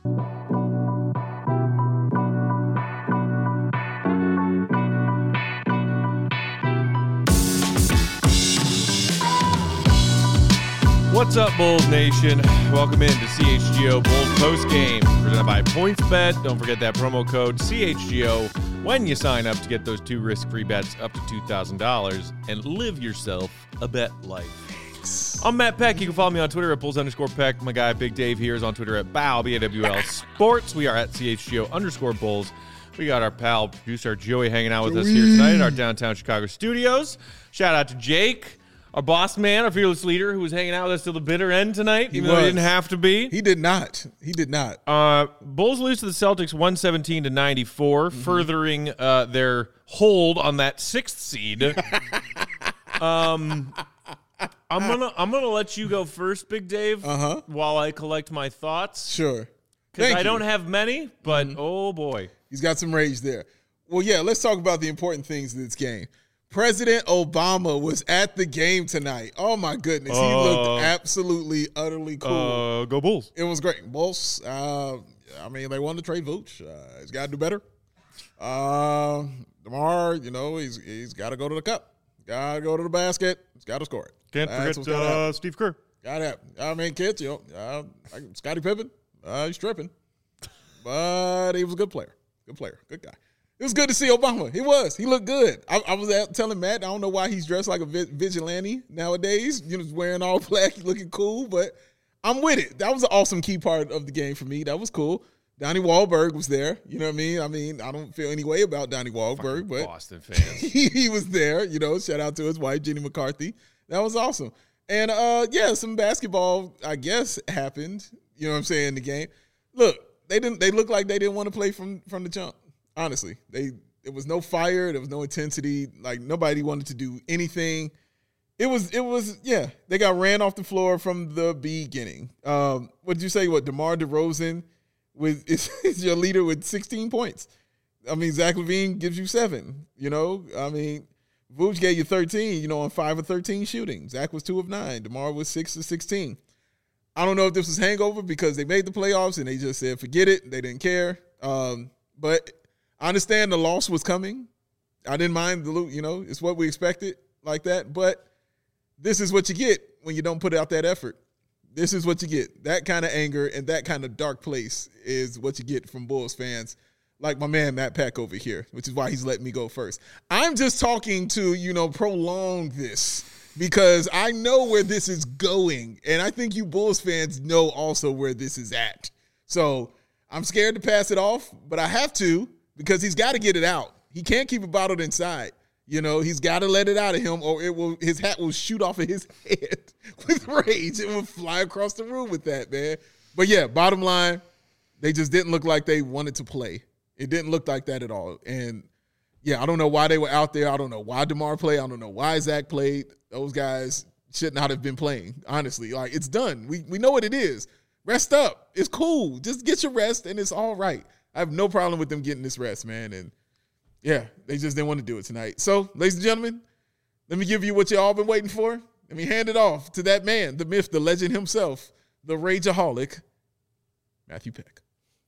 What's up, Bulls Nation? Welcome in to CHGO Bulls postgame presented by PointsBet. Don't forget that promo code CHGO when you sign up to get those 2 risk-free bets up to $2,000 and live yourself a bet life. I'm Matt Peck. You can follow me on Twitter at Bulls_Peck. My guy Big Dave here is on Twitter at BAWL, B-A-W-L Sports. We are at CHGO_Bulls. We got our pal, producer Joey, hanging out with us here tonight in our downtown Chicago studios. Shout out to Jake, our boss man, our fearless leader, who was hanging out with us till the bitter end tonight, even though he didn't have to be. He did not. Bulls lose to the Celtics 117-94, furthering their hold on that 6th seed. I'm gonna let you go first, Big Dave, while I collect my thoughts. Sure. Because I don't have many, but oh boy. He's got some rage there. Well, yeah, let's talk about the important things of this game. President Obama was at the game tonight. Oh, my goodness. He looked absolutely, utterly cool. Go Bulls. It was great. Bulls, they wanted to trade Vooch. He's got to do better. DeMar, he's got to go to the cup. Got to go to the basket. He's got to score it. Can't forget Steve Kerr. Got to have. Kids, Scottie Pippen, he's tripping. But he was a good player. Good guy. It was good to see Obama. He was. He looked good. I was telling Matt, I don't know why he's dressed like a vigilante nowadays. Wearing all black, looking cool, but I'm with it. That was an awesome key part of the game for me. That was cool. Donnie Wahlberg was there. You know what I mean? I don't feel any way about Donnie Wahlberg, but Boston fans. he was there. Shout out to his wife, Jenny McCarthy. That was awesome. And, some basketball, I guess, happened, in the game. Look, they looked like they didn't want to play from the jump. Honestly, there was no fire. There was no intensity. Like, nobody wanted to do anything. It was. They got ran off the floor from the beginning. What did you say? DeMar DeRozan is your leader with 16 points. Zach LaVine gives you 7. Vooch gave you 13. On 5 of 13 shooting. Zach was 2 of 9. DeMar was 6 of 16. I don't know if this was hangover because they made the playoffs and they just said forget it. They didn't care. But I understand the loss was coming. I didn't mind the loot, it's what we expected like that. But this is what you get when you don't put out that effort. This is what you get. That kind of anger and that kind of dark place is what you get from Bulls fans like my man Matt Peck over here, which is why he's letting me go first. I'm just talking to, prolong this because I know where this is going. And I think you Bulls fans know also where this is at. So I'm scared to pass it off, but I have to. Because he's got to get it out. He can't keep it bottled inside. He's got to let it out of him or his hat will shoot off of his head with rage. It will fly across the room with that, man. But, yeah, bottom line, they just didn't look like they wanted to play. It didn't look like that at all. And, yeah, I don't know why they were out there. I don't know why DeMar played. I don't know why Zach played. Those guys should not have been playing, honestly. Like, it's done. We know what it is. Rest up. It's cool. Just get your rest, and it's all right. I have no problem with them getting this rest, man. And, yeah, they just didn't want to do it tonight. So, ladies and gentlemen, let me give you what you all been waiting for. Let me hand it off to that man, the myth, the legend himself, the rageaholic, Matthew Peck.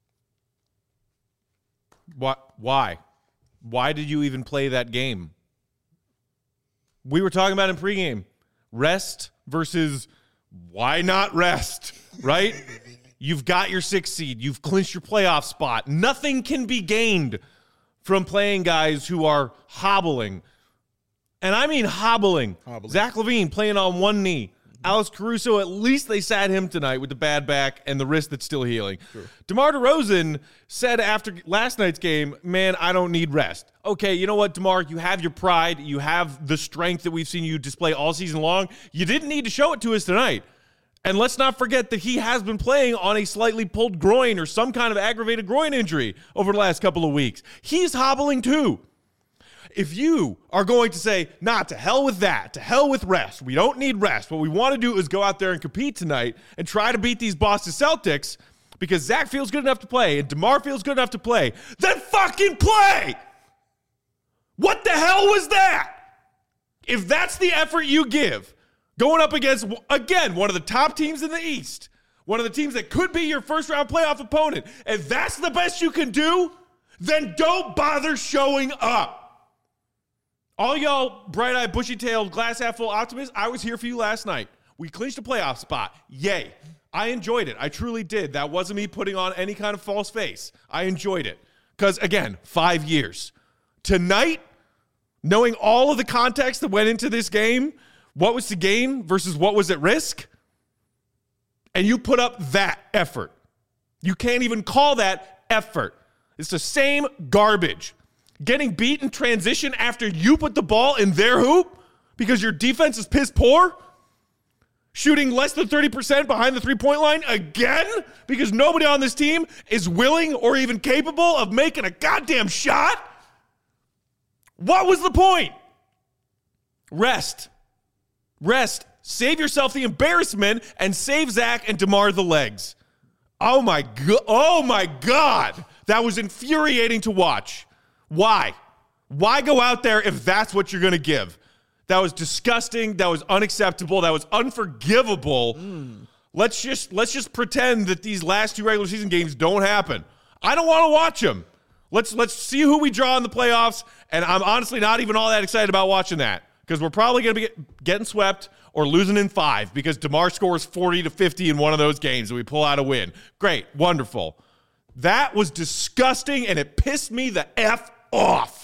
Why? Why did you even play that game? We were talking about in pregame. Rest versus why not rest, right? You've got your 6th seed. You've clinched your playoff spot. Nothing can be gained from playing guys who are hobbling. And I mean hobbling. Zach LaVine playing on one knee. Alex Caruso, at least they sat him tonight with the bad back and the wrist that's still healing. Sure. DeMar DeRozan said after last night's game, man, I don't need rest. Okay, you know what, DeMar? You have your pride. You have the strength that we've seen you display all season long. You didn't need to show it to us tonight. And let's not forget that he has been playing on a slightly pulled groin or some kind of aggravated groin injury over the last couple of weeks. He's hobbling too. If you are going to say, nah, to hell with that, to hell with rest, we don't need rest. What we want to do is go out there and compete tonight and try to beat these Boston Celtics because Zach feels good enough to play and DeMar feels good enough to play, then fucking play! What the hell was that? If that's the effort you give, going up against, again, one of the top teams in the East, one of the teams that could be your first-round playoff opponent, and that's the best you can do, then don't bother showing up. All y'all bright-eyed, bushy-tailed, glass-half-full optimists, I was here for you last night. We clinched a playoff spot. Yay. I enjoyed it. I truly did. That wasn't me putting on any kind of false face. I enjoyed it. Because, again, 5 years. Tonight, knowing all of the context that went into this game, what was to gain versus what was at risk, and you put up that effort. You can't even call that effort. It's the same garbage. Getting beat in transition after you put the ball in their hoop because your defense is piss poor? Shooting less than 30% behind the three-point line again because nobody on this team is willing or even capable of making a goddamn shot? What was the point? Rest. Save yourself the embarrassment and save Zach and DeMar the legs. Oh my God. That was infuriating to watch. Why? Why go out there if that's what you're going to give? That was disgusting. That was unacceptable. That was unforgivable. Let's just pretend that these last 2 regular season games don't happen. I don't want to watch them. Let's see who we draw in the playoffs, and I'm honestly not even all that excited about watching that because we're probably going to be getting swept or losing in 5 because DeMar scores 40 to 50 in one of those games and we pull out a win. Great. Wonderful. That was disgusting, and it pissed me the F off.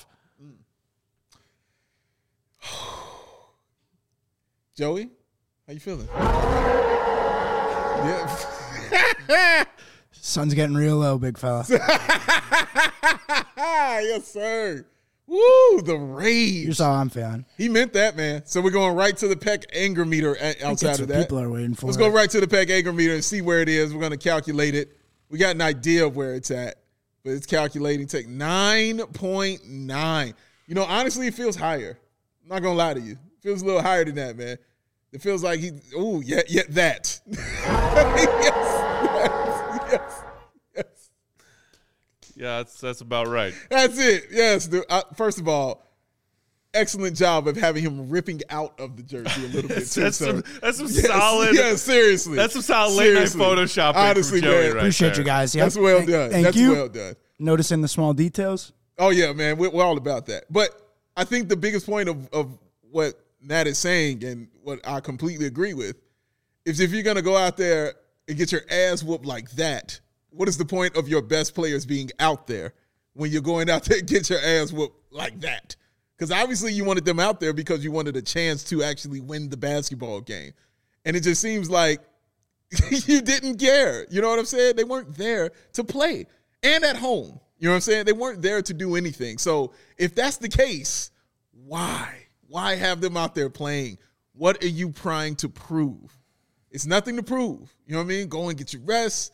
Joey, how you feeling? Yeah. Sun's getting real low, big fella. Yes, sir. Woo, the rage. Here's how I'm feeling. He meant that, man. So we're going right to the Peck anger meter outside of that. People are waiting for. Let's go right to the Peck anger meter and see where it is. We're going to calculate it. We got an idea of where it's at, but it's calculating. Take 9.9. You know, honestly, it feels higher. I'm not going to lie to you. It feels a little higher than that, man. It feels like that. Yes. Yeah, that's about right. That's it. Yes. Dude. First of all, excellent job of having him ripping out of the jersey a little bit too. That's some solid. Yeah, seriously. That's some solid late night photoshopping. Honestly, from Joey man. right Appreciate there. you guys. Yep. That's well done. That's well done. Noticing the small details. Oh yeah, man. We're all about that. But I think the biggest point of what Matt is saying and what I completely agree with is if you're going to go out there and get your ass whooped like that, what is the point of your best players being out there when you're going out there and get your ass whooped like that? Because obviously you wanted them out there because you wanted a chance to actually win the basketball game. And it just seems like you didn't care. You know what I'm saying? They weren't there to play. And at home. You know what I'm saying? They weren't there to do anything. So if that's the case, why? Why have them out there playing? What are you trying to prove? It's nothing to prove. You know what I mean? Go and get your rest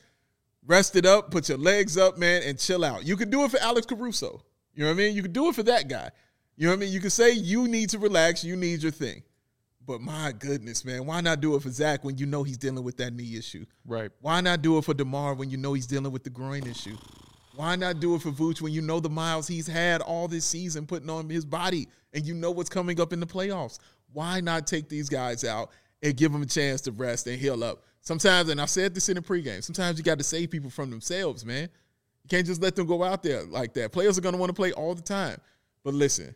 it up, put your legs up, man, and chill out. You could do it for Alex Caruso. You know what I mean? You could do it for that guy. You know what I mean? You could say you need to relax, you need your thing. But my goodness, man, why not do it for Zach when you know he's dealing with that knee issue? Right. Why not do it for DeMar when you know he's dealing with the groin issue? Why not do it for Vooch when you know the miles he's had all this season putting on his body and you know what's coming up in the playoffs? Why not take these guys out and give them a chance to rest and heal up? Sometimes, and I said this in the pregame, sometimes you got to save people from themselves, man. You can't just let them go out there like that. Players are going to want to play all the time. But listen,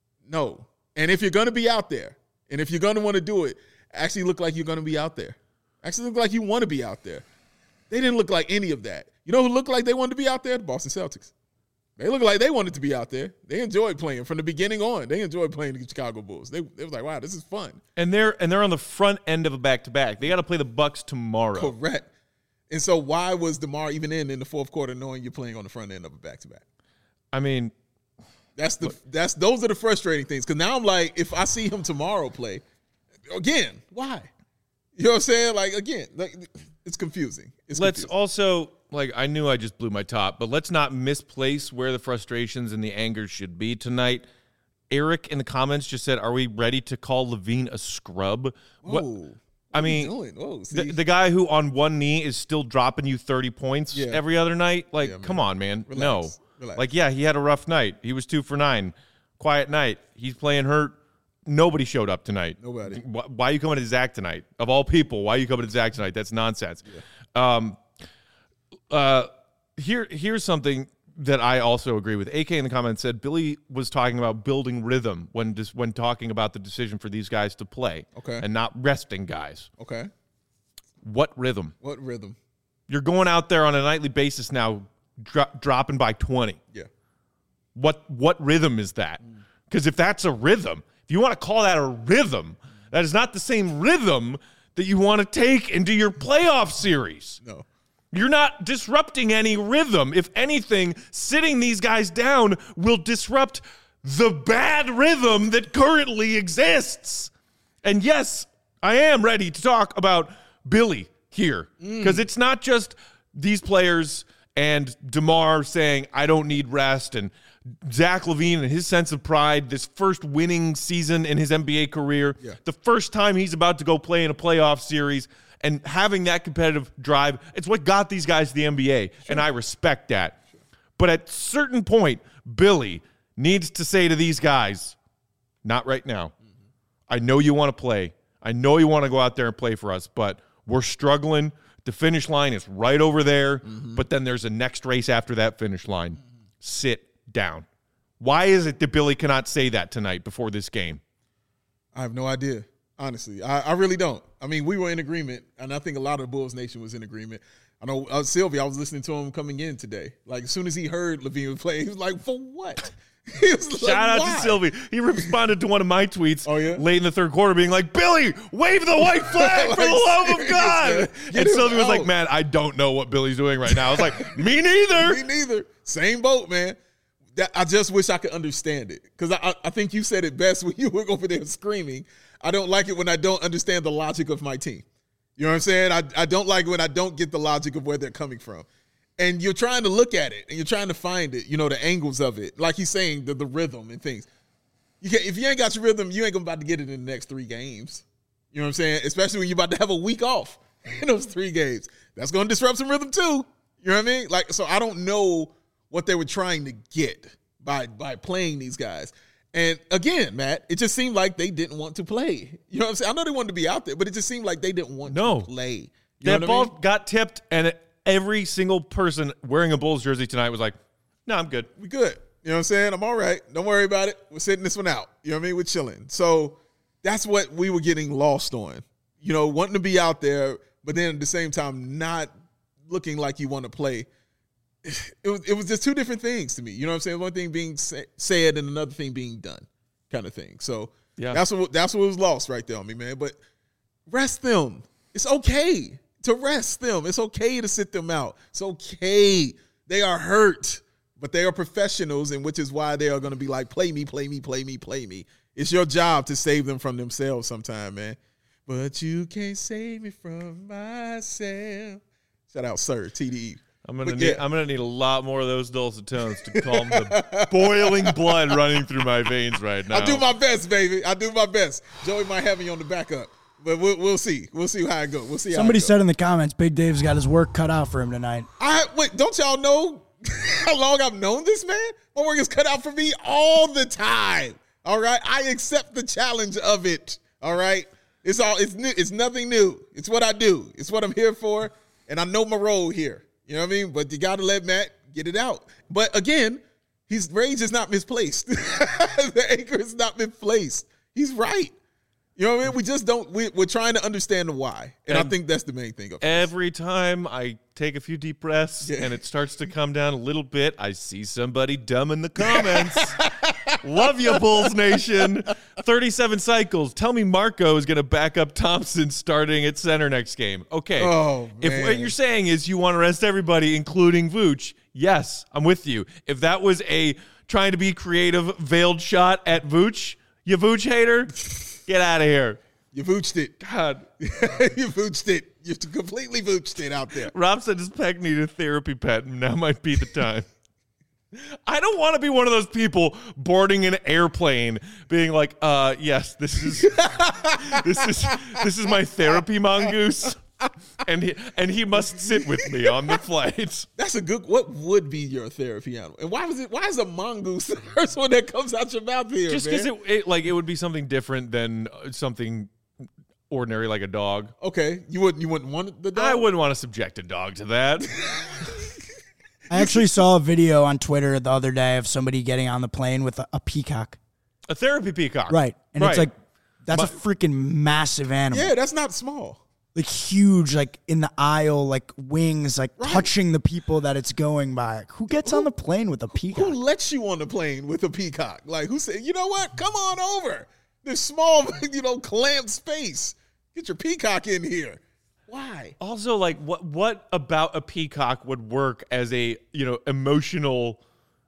no. And if you're going to be out there, and if you're going to want to do it, actually look like you're going to be out there. Actually look like you want to be out there. They didn't look like any of that. You know who looked like they wanted to be out there? The Boston Celtics. They looked like they wanted to be out there. They enjoyed playing from the beginning on. They enjoyed playing the Chicago Bulls. They was like, wow, this is fun. And they're on the front end of a back-to-back. They got to play the Bucks tomorrow. Correct. And so why was DeMar even in the fourth quarter knowing you're playing on the front end of a back-to-back? I mean, those are the frustrating things. Because now I'm like, if I see him tomorrow play, again, why? You know what I'm saying? Like, again, it's confusing. Let's also, I knew I just blew my top, but let's not misplace where the frustrations and the anger should be tonight. Eric in the comments just said, are we ready to call LaVine a scrub? Whoa. I mean, the guy who on one knee is still dropping you 30 points every other night? Come on, man. Relax. No. Relax. He had a rough night. He was 2 for 9. Quiet night. He's playing hurt. Nobody showed up tonight. Nobody. Why are you coming to Zach tonight? Of all people, why are you coming to Zach tonight? That's nonsense. Here's something that I also agree with. AK in the comments said Billy was talking about building rhythm when talking about the decision for these guys to play, and not resting guys. Okay. What rhythm? What rhythm? You're going out there on a nightly basis now, dropping by 20. Yeah. What rhythm is that? Because if that's a rhythm, if you want to call that a rhythm, that is not the same rhythm that you want to take into your playoff series. No. You're not disrupting any rhythm. If anything, sitting these guys down will disrupt the bad rhythm that currently exists. And yes, I am ready to talk about Billy here, because it's not just these players and DeMar saying, I don't need rest, and Zach LaVine and his sense of pride, this first winning season in his NBA career, the first time he's about to go play in a playoff series, and having that competitive drive, it's what got these guys to the NBA, and I respect that. But at a certain point, Billy needs to say to these guys, not right now. I know you want to play. I know you want to go out there and play for us, but we're struggling. The finish line is right over there, but then there's a next race after that finish line. Sit down. Why is it that Billy cannot say that tonight before this game? I have no idea. Honestly, I really don't. I mean, we were in agreement, and I think a lot of the Bulls Nation was in agreement. I know Sylvia, I was listening to him coming in today. Like, as soon as he heard LaVine was playing, he was like, for what? He was like, Shout out why? to Sylvie. He responded to one of my tweets late in the third quarter being like, Billy, wave the white flag for the love of God. And Sylvie was like, man, I don't know what Billy's doing right now. I was like, me neither. Me neither. Same boat, man. I just wish I could understand it, because I think you said it best when you were over there screaming. I don't like it when I don't understand the logic of my team. You know what I'm saying? I don't like it when I don't get the logic of where they're coming from. And you're trying to look at it, and you're trying to find it, you know, the angles of it. Like he's saying, the rhythm and things. If you ain't got your rhythm, you ain't about to get it in the next 3 games. You know what I'm saying? Especially when you're about to have a week off in those 3 games. That's going to disrupt some rhythm too. You know what I mean? Like, so I don't know what they were trying to get by playing these guys. And again, Matt, it just seemed like they didn't want to play. You know what I'm saying? I know they wanted to be out there, but it just seemed like they didn't want to play. That ball got tipped, and every single person wearing a Bulls jersey tonight was like, no, I'm good. We good. You know what I'm saying? I'm all right. Don't worry about it. We're sitting this one out. You know what I mean? We're chilling. So that's what we were getting lost on. You know, wanting to be out there, but then at the same time not looking like you want to play. It was just 2 different things to me. You know what I'm saying? One thing being said and another thing being done, kind of thing. So that's what was lost right there on me, man. But rest them. It's okay to rest them. It's okay to sit them out. It's okay. They are hurt, but they are professionals, and which is why they are going to be like, play me, play me, play me, play me. It's your job to save them from themselves sometime, man. But you can't save me from myself. Shout out, sir, TDE. I'm gonna need a lot more of those dulcet tones to calm the boiling blood running through my veins right now. I do my best, baby. I do my best. Joey might have me on the backup, but we'll see. We'll see how it goes. We'll see. Somebody said in the comments, Big Dave's got his work cut out for him tonight. Wait, don't y'all know how long I've known this man? My work is cut out for me all the time. All right, I accept the challenge of it. All right, it's new. It's nothing new. It's what I do. It's what I'm here for, and I know my role here. You know what I mean? But you got to let Matt get it out. But again, his rage is not misplaced. The anger is not misplaced. He's right. You know what I mean? We just don't. We're trying to understand the why, and I think that's the main thing. Every time I take a few deep breaths and it starts to come down a little bit, I see somebody dumb in the comments. Love you, Bulls Nation. 37 cycles. Tell me Marco is going to back up Thompson starting at center next game. Okay. Oh, if what you're saying is you want to rest everybody, including Vooch, yes, I'm with you. If that was a trying to be creative, veiled shot at Vooch, you Vooch hater, get out of here. You Vooched it. God. You Vooched it. You completely Vooched it out there. Rob said his pet needed a therapy pet, and now might be the time. I don't want to be one of those people boarding an airplane being like, yes, this is my therapy mongoose. And he must sit with me on the flight. That's a good. What would be your therapy animal? And why is a mongoose the first one that comes out your mouth here? Just because it would be something different than something ordinary like a dog. Okay, you wouldn't want the dog? I wouldn't want to subject a dog to that. I actually saw a video on Twitter the other day of somebody getting on the plane with a peacock. A therapy peacock. Right. And it's Right. like, that's a freaking massive animal. Yeah, that's not small. Like huge, like in the aisle, like wings, like touching the people that it's going by. Who gets on the plane with a peacock? Who lets you on the plane with a peacock? Like, who said, you know what? Come on over. This small, clamped space. Get your peacock in here. Why? Also, like, what about a peacock would work as a, emotional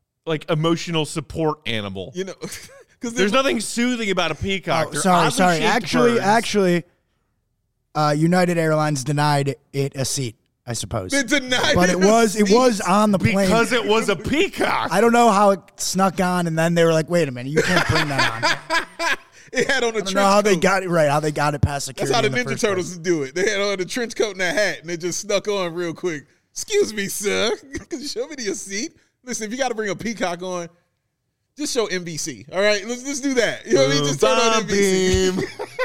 support animal? Because There's nothing soothing about a peacock. Oh, They're sorry. oddly shaped Actually, birds. United Airlines denied it a seat, I suppose. They denied But it was on the plane. Because it was a peacock. I don't know how it snuck on, and then they were like, "Wait a minute, you can't bring that on." It had on a I don't trench know how coat. they got it right. How they got it past security. That's how the in Ninja first Turtles place. do it. They had on the trench coat and a hat, and they just snuck on real quick. Excuse me, sir. Could you show me your seat? Listen, if you got to bring a peacock on, just show NBC. All right, let's do that. You know what I mean? Just turn on NBC.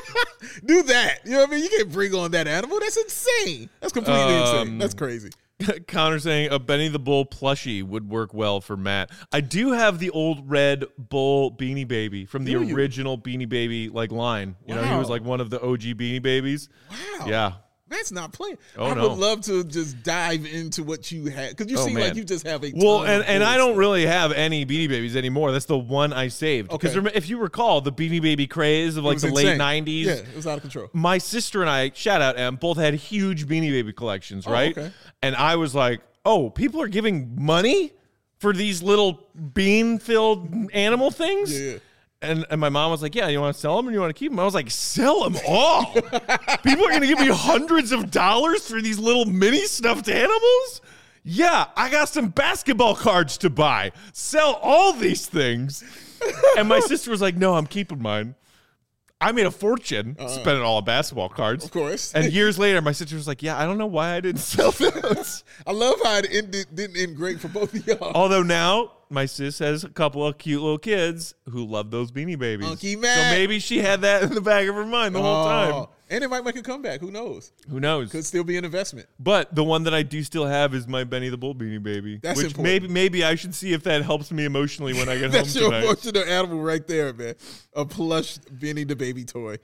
Do that. You know what I mean? You can't bring on that animal. That's insane. That's completely insane. That's crazy. Connor saying a Benny the Bull plushie would work well for Matt. I do have the old red bull Beanie Baby from the original Beanie Baby line. He Wow. was like one of the OG Beanie Babies. Wow. Yeah. Matt's not playing. Oh, I no. would love to just dive into what you had because you Oh, seem man. like you just have a Well, ton of and I bullets. don't really have any Beanie Babies anymore. That's the one I saved. Because Okay. if you recall, the Beanie Baby craze of It like was the late insane. 90s. Yeah, it was out of control. My sister and I, shout out Em, both had huge Beanie Baby collections, right? okay. And I was like, oh, people are giving money for these little bean-filled animal things? Yeah. And my mom was like, yeah, you want to sell them or you want to keep them? I was like, sell them all. People are going to give me hundreds of dollars for these little mini stuffed animals? Yeah, I got some basketball cards to buy. Sell all these things. And my sister was like, no, I'm keeping mine. I made a fortune spending all on basketball cards. Of course. And years later, my sister was like, yeah, I don't know why I didn't sell those. I love how it didn't end great for both of y'all. Although now my sis has a couple of cute little kids who love those Beanie Babies. Funky So Matt. maybe she had that in the back of her mind the whole time. And it might make a comeback. Who knows? Who knows? Could still be an investment. But the one that I do still have is my Benny the Bull Beanie Baby. That's which important. maybe I should see if that helps me emotionally when I get home That's your tonight. emotional animal right there, man. A plush Benny the Baby toy.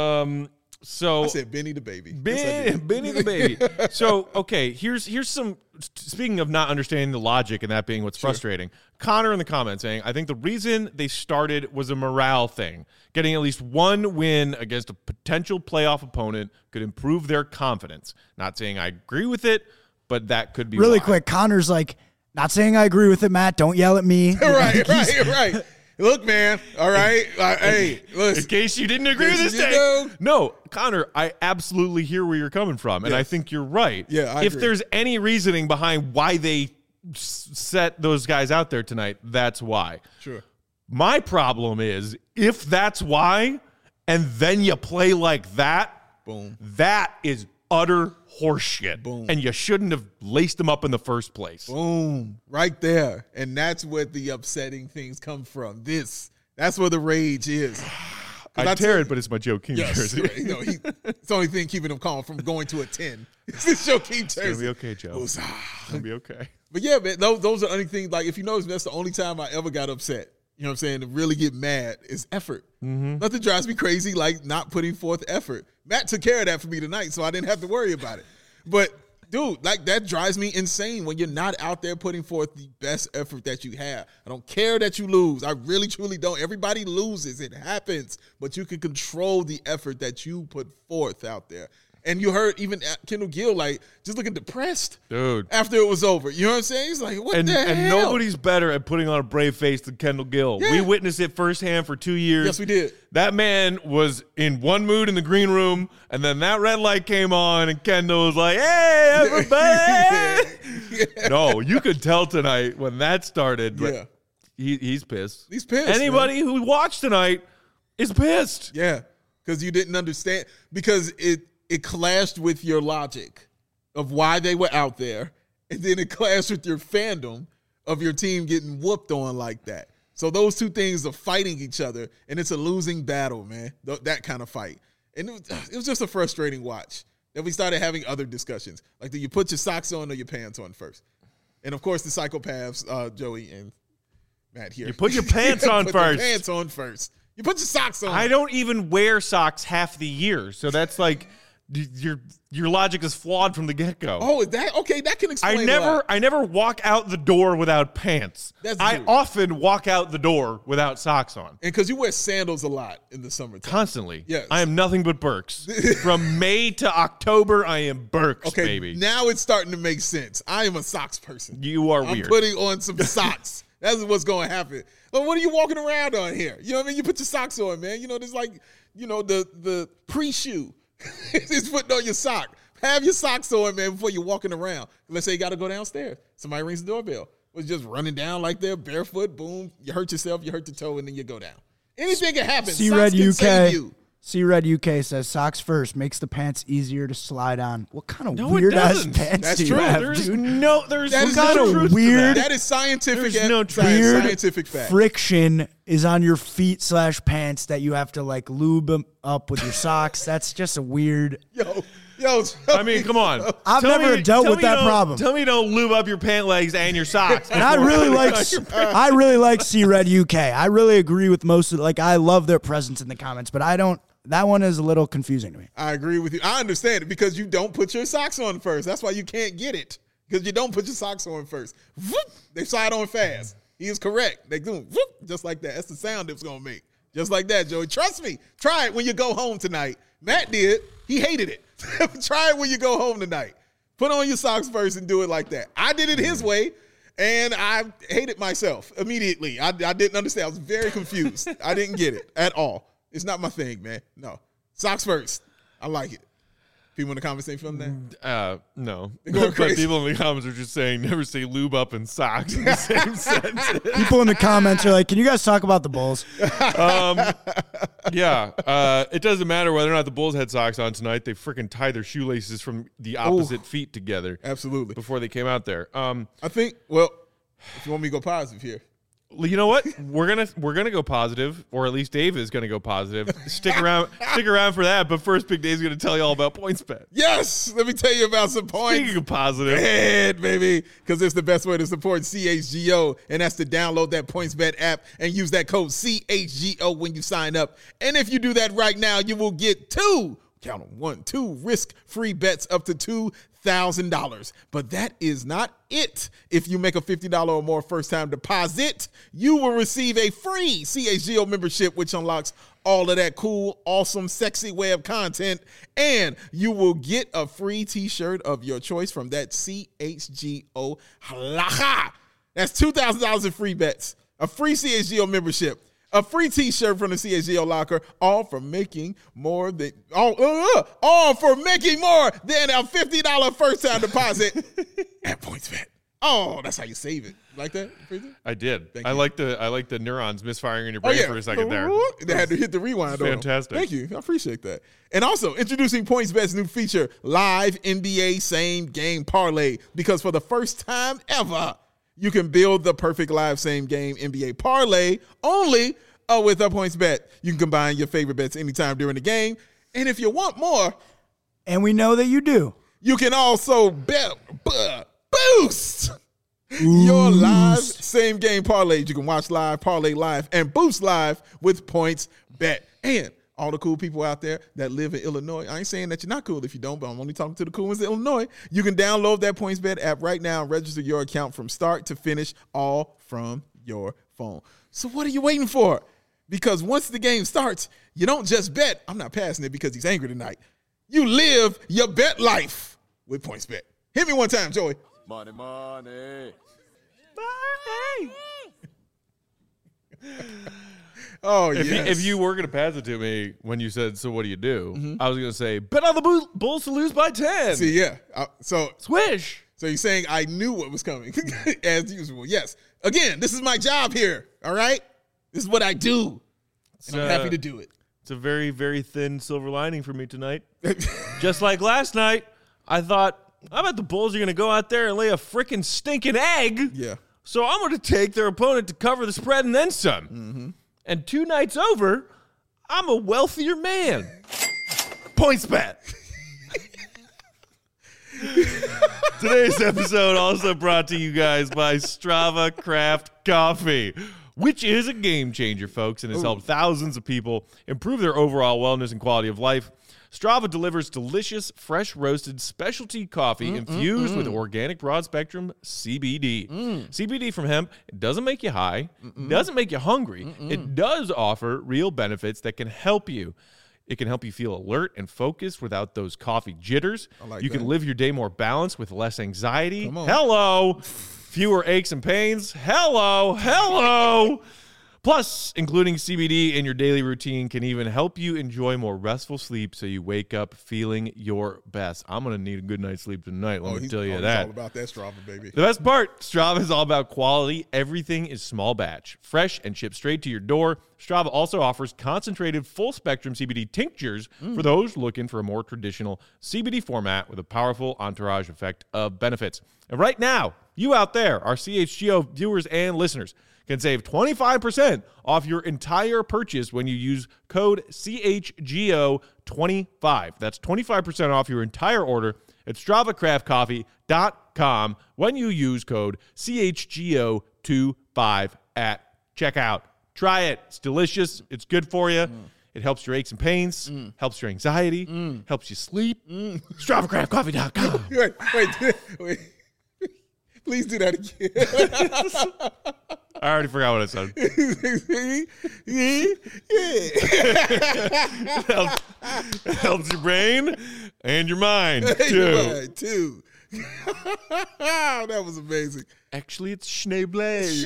So I said Benny the Baby. Yes, I did. Benny the Baby. So, okay, here's some, speaking of not understanding the logic and that being what's frustrating. Connor in the comments saying, I think the reason they started was a morale thing. Getting at least one win against a potential playoff opponent could improve their confidence. Not saying I agree with it, but that could be Really why. quick, Connor's like, not saying I agree with it, Matt. Don't yell at me. Right. Look, man. All right. Hey, In listen. case you didn't agree with this You take. know? No, Connor, I absolutely hear where you're coming from, and I think you're right. Yeah, I If agree. there's any reasoning behind why they set those guys out there tonight, that's why. Sure. My problem is if that's why, and then you play like that, Boom. that is utter horseshit. Boom. And you shouldn't have laced them up in the first place. Boom. Right there. And that's where the upsetting things come from. That's where the rage is. I tear it, but it's my Joe King Yes. jersey. Right. It's the only thing keeping him calm from going to a 10. It's this Joe King It's gonna jersey. be okay, Joe. Woosah. It's gonna be okay. But yeah, man, those are the only things. Like, if you notice, that's the only time I ever got upset. You know what I'm saying? To really get mad is effort. Nothing drives me crazy like not putting forth effort. Matt took care of that for me tonight, so I didn't have to worry about it. But, dude, like, that drives me insane when you're not out there putting forth the best effort that you have. I don't care that you lose. I really, truly don't. Everybody loses. It happens. But you can control the effort that you put forth out there. And you heard even Kendall Gill, like, just looking depressed. Dude. After it was over. You know what I'm saying? He's like, what And the hell? nobody's better at putting on a brave face than Kendall Gill. Yeah. We witnessed it firsthand for 2 years. Yes, we did. That man was in one mood in the green room, and then that red light came on, and Kendall was like, hey, everybody. No, you could tell tonight when that started. But Yeah. he's pissed. He's pissed, Anybody who watched tonight is pissed. Yeah, because you didn't understand. Because it clashed with your logic of why they were out there, and then it clashed with your fandom of your team getting whooped on like that. So those two things are fighting each other, and it's a losing battle, man. That kind of fight. And it was just a frustrating watch. Then we started having other discussions. Like, do you put your socks on or your pants on first? And, of course, the psychopaths, Joey and Matt here. You put your pants on put first. Your pants on first. You put your socks on. I don't even wear socks half the year, so that's like your logic is flawed from the get-go. Oh, is that okay? That can explain a lot. I never walk out the door without pants. I true. often walk out the door without socks on. And because you wear sandals a lot in the summertime. Constantly. Yes. I am nothing but Birks. From May to October, I am Birks, Okay, baby. now it's starting to make sense. I am a socks person. You are I'm weird. putting on some socks. That's what's going to happen. But what are you walking around on here? You know what I mean? You put your socks on, man. You know, there's like, you know, the pre-shoe. It's putting on your sock. Have your socks on, man, before you're walking around. Let's say you got to go downstairs. Somebody rings the doorbell. Was just running down like they're barefoot. Boom. You hurt yourself. You hurt your toe, and then you go down. Anything can happen. C-Red Socks can save you. C-Red UK says socks first makes the pants easier to slide on. What kind of No, it weird ass doesn't. pants That's do you true. have, There's dude? there's That what is kind no of truth truth to weird. That is scientific. There's no Weird scientific fact. friction is on your feet / pants that you have to like lube them up with your socks. That's just a weird. Yo. I mean, come on. I've Tell never me- dealt tell with me that don't- problem. Tell me you don't lube up your pant legs and your socks. And I really like C-Red UK. I really agree with most of I love their presence in the comments, but I don't. That one is a little confusing to me. I agree with you. I understand it because you don't put your socks on first. That's why you can't get it because you don't put your socks on first. Whoop, they slide on fast. He is correct. They do whoop, just like that. That's the sound it's going to make. Just like that, Joey. Trust me. Try it when you go home tonight. Matt did. He hated it. Try it when you go home tonight. Put on your socks first and do it like that. I did it his way, and I hated myself immediately. I didn't understand. I was very confused. I didn't get it at all. It's not my thing, man. No. Socks first. I like it. People in the comments ain't feeling that? No. They're going But crazy. people in the comments are just saying never say lube up in socks in the same sentence. People in the comments are like, "Can you guys talk about the Bulls?" Yeah. It doesn't matter whether or not the Bulls had socks on tonight. They freaking tied their shoelaces from the opposite feet together Absolutely. before they came out there. I think, well, if you want me to go positive here. You know what? We're gonna go positive, or at least Dave is gonna go positive. Stick around for that. But first, Big Dave's gonna tell you all about PointsBet. Yes, let me tell you about some points. Speaking of positive, Bet, baby, because it's the best way to support CHGO, and that's to download that PointsBet app and use that code CHGO when you sign up. And if you do that right now, you will get two risk-free bets up to $2,000. But that is not it. If you make a $50 or more first-time deposit, you will receive a free CHGO membership, which unlocks all of that cool, awesome, sexy web content, and you will get a free t-shirt of your choice from that CHGO halacha. That's $2,000 in free bets, a free CHGO membership, a free t-shirt from the CHGO locker, all for making more than a $50 first-time deposit at PointsBet. Oh, that's how you save it. Like that? I did. Thank I you. like the neurons misfiring in your brain for a second there. They had to hit the rewind. Fantastic. Thank you. I appreciate that. And also, introducing PointsBet's new feature, Live NBA Same Game Parlay. Because for the first time ever, you can build the perfect live same game NBA parlay only with a PointsBet. You can combine your favorite bets anytime during the game. And if you want more, And we know that you do. you can also boost your live same game parlays. You can watch live, parlay live, and boost live with PointsBet. And all the cool people out there that live in Illinois, I ain't saying that you're not cool if you don't, but I'm only talking to the cool ones in Illinois. You can download that PointsBet app right now and register your account from start to finish, all from your phone. So what are you waiting for? Because once the game starts, you don't just bet. I'm not passing it because he's angry tonight. You live your bet life with PointsBet. Hit me one time, Joey. Money. Oh, If, yes. if you were going to pass it to me when you said, so what do you do? I was going to say, bet on the Bulls to lose by 10. See, yeah. So Swish. you're saying I knew what was coming as usual. Yes. Again, this is my job here. All right. This is what I do. And I'm happy to do it. It's a very, very thin silver lining for me tonight. Just like last night, I thought, I bet the Bulls are going to go out there and lay a freaking stinking egg. Yeah. So I'm going to take their opponent to cover the spread and then some. And 2 nights over, I'm a wealthier man. PointsBet. Today's episode also brought to you guys by Strava Craft Coffee, which is a game changer, folks, and has helped thousands of people improve their overall wellness and quality of life. Strava delivers delicious, fresh roasted specialty coffee infused with organic broad spectrum CBD. CBD from hemp, it doesn't make you high, doesn't make you hungry. It does offer real benefits that can help you. It can help you feel alert and focused without those coffee jitters. You can live your day more balanced with less anxiety. Hello. Fewer aches and pains. Hello. Plus, including CBD in your daily routine can even help you enjoy more restful sleep so you wake up feeling your best. I'm going to need a good night's sleep tonight, let me tell you that. It's all about that Strava, baby. The best part, Strava is all about quality. Everything is small batch, fresh, and shipped straight to your door. Strava also offers concentrated full-spectrum CBD tinctures for those looking for a more traditional CBD format with a powerful entourage effect of benefits. And right now, you out there, our CHGO viewers and listeners, can save 25% off your entire purchase when you use code CHGO25. That's 25% off your entire order at StravaCraftCoffee.com when you use code CHGO25 at checkout. Try it. It's delicious. It's good for you. It helps your aches and pains, helps your anxiety, helps you sleep. StravaCraftCoffee.com. Wait. Please do that again. I already forgot what I said. It helps your brain and your mind, too. That was amazing. Actually, it's Schneeblade.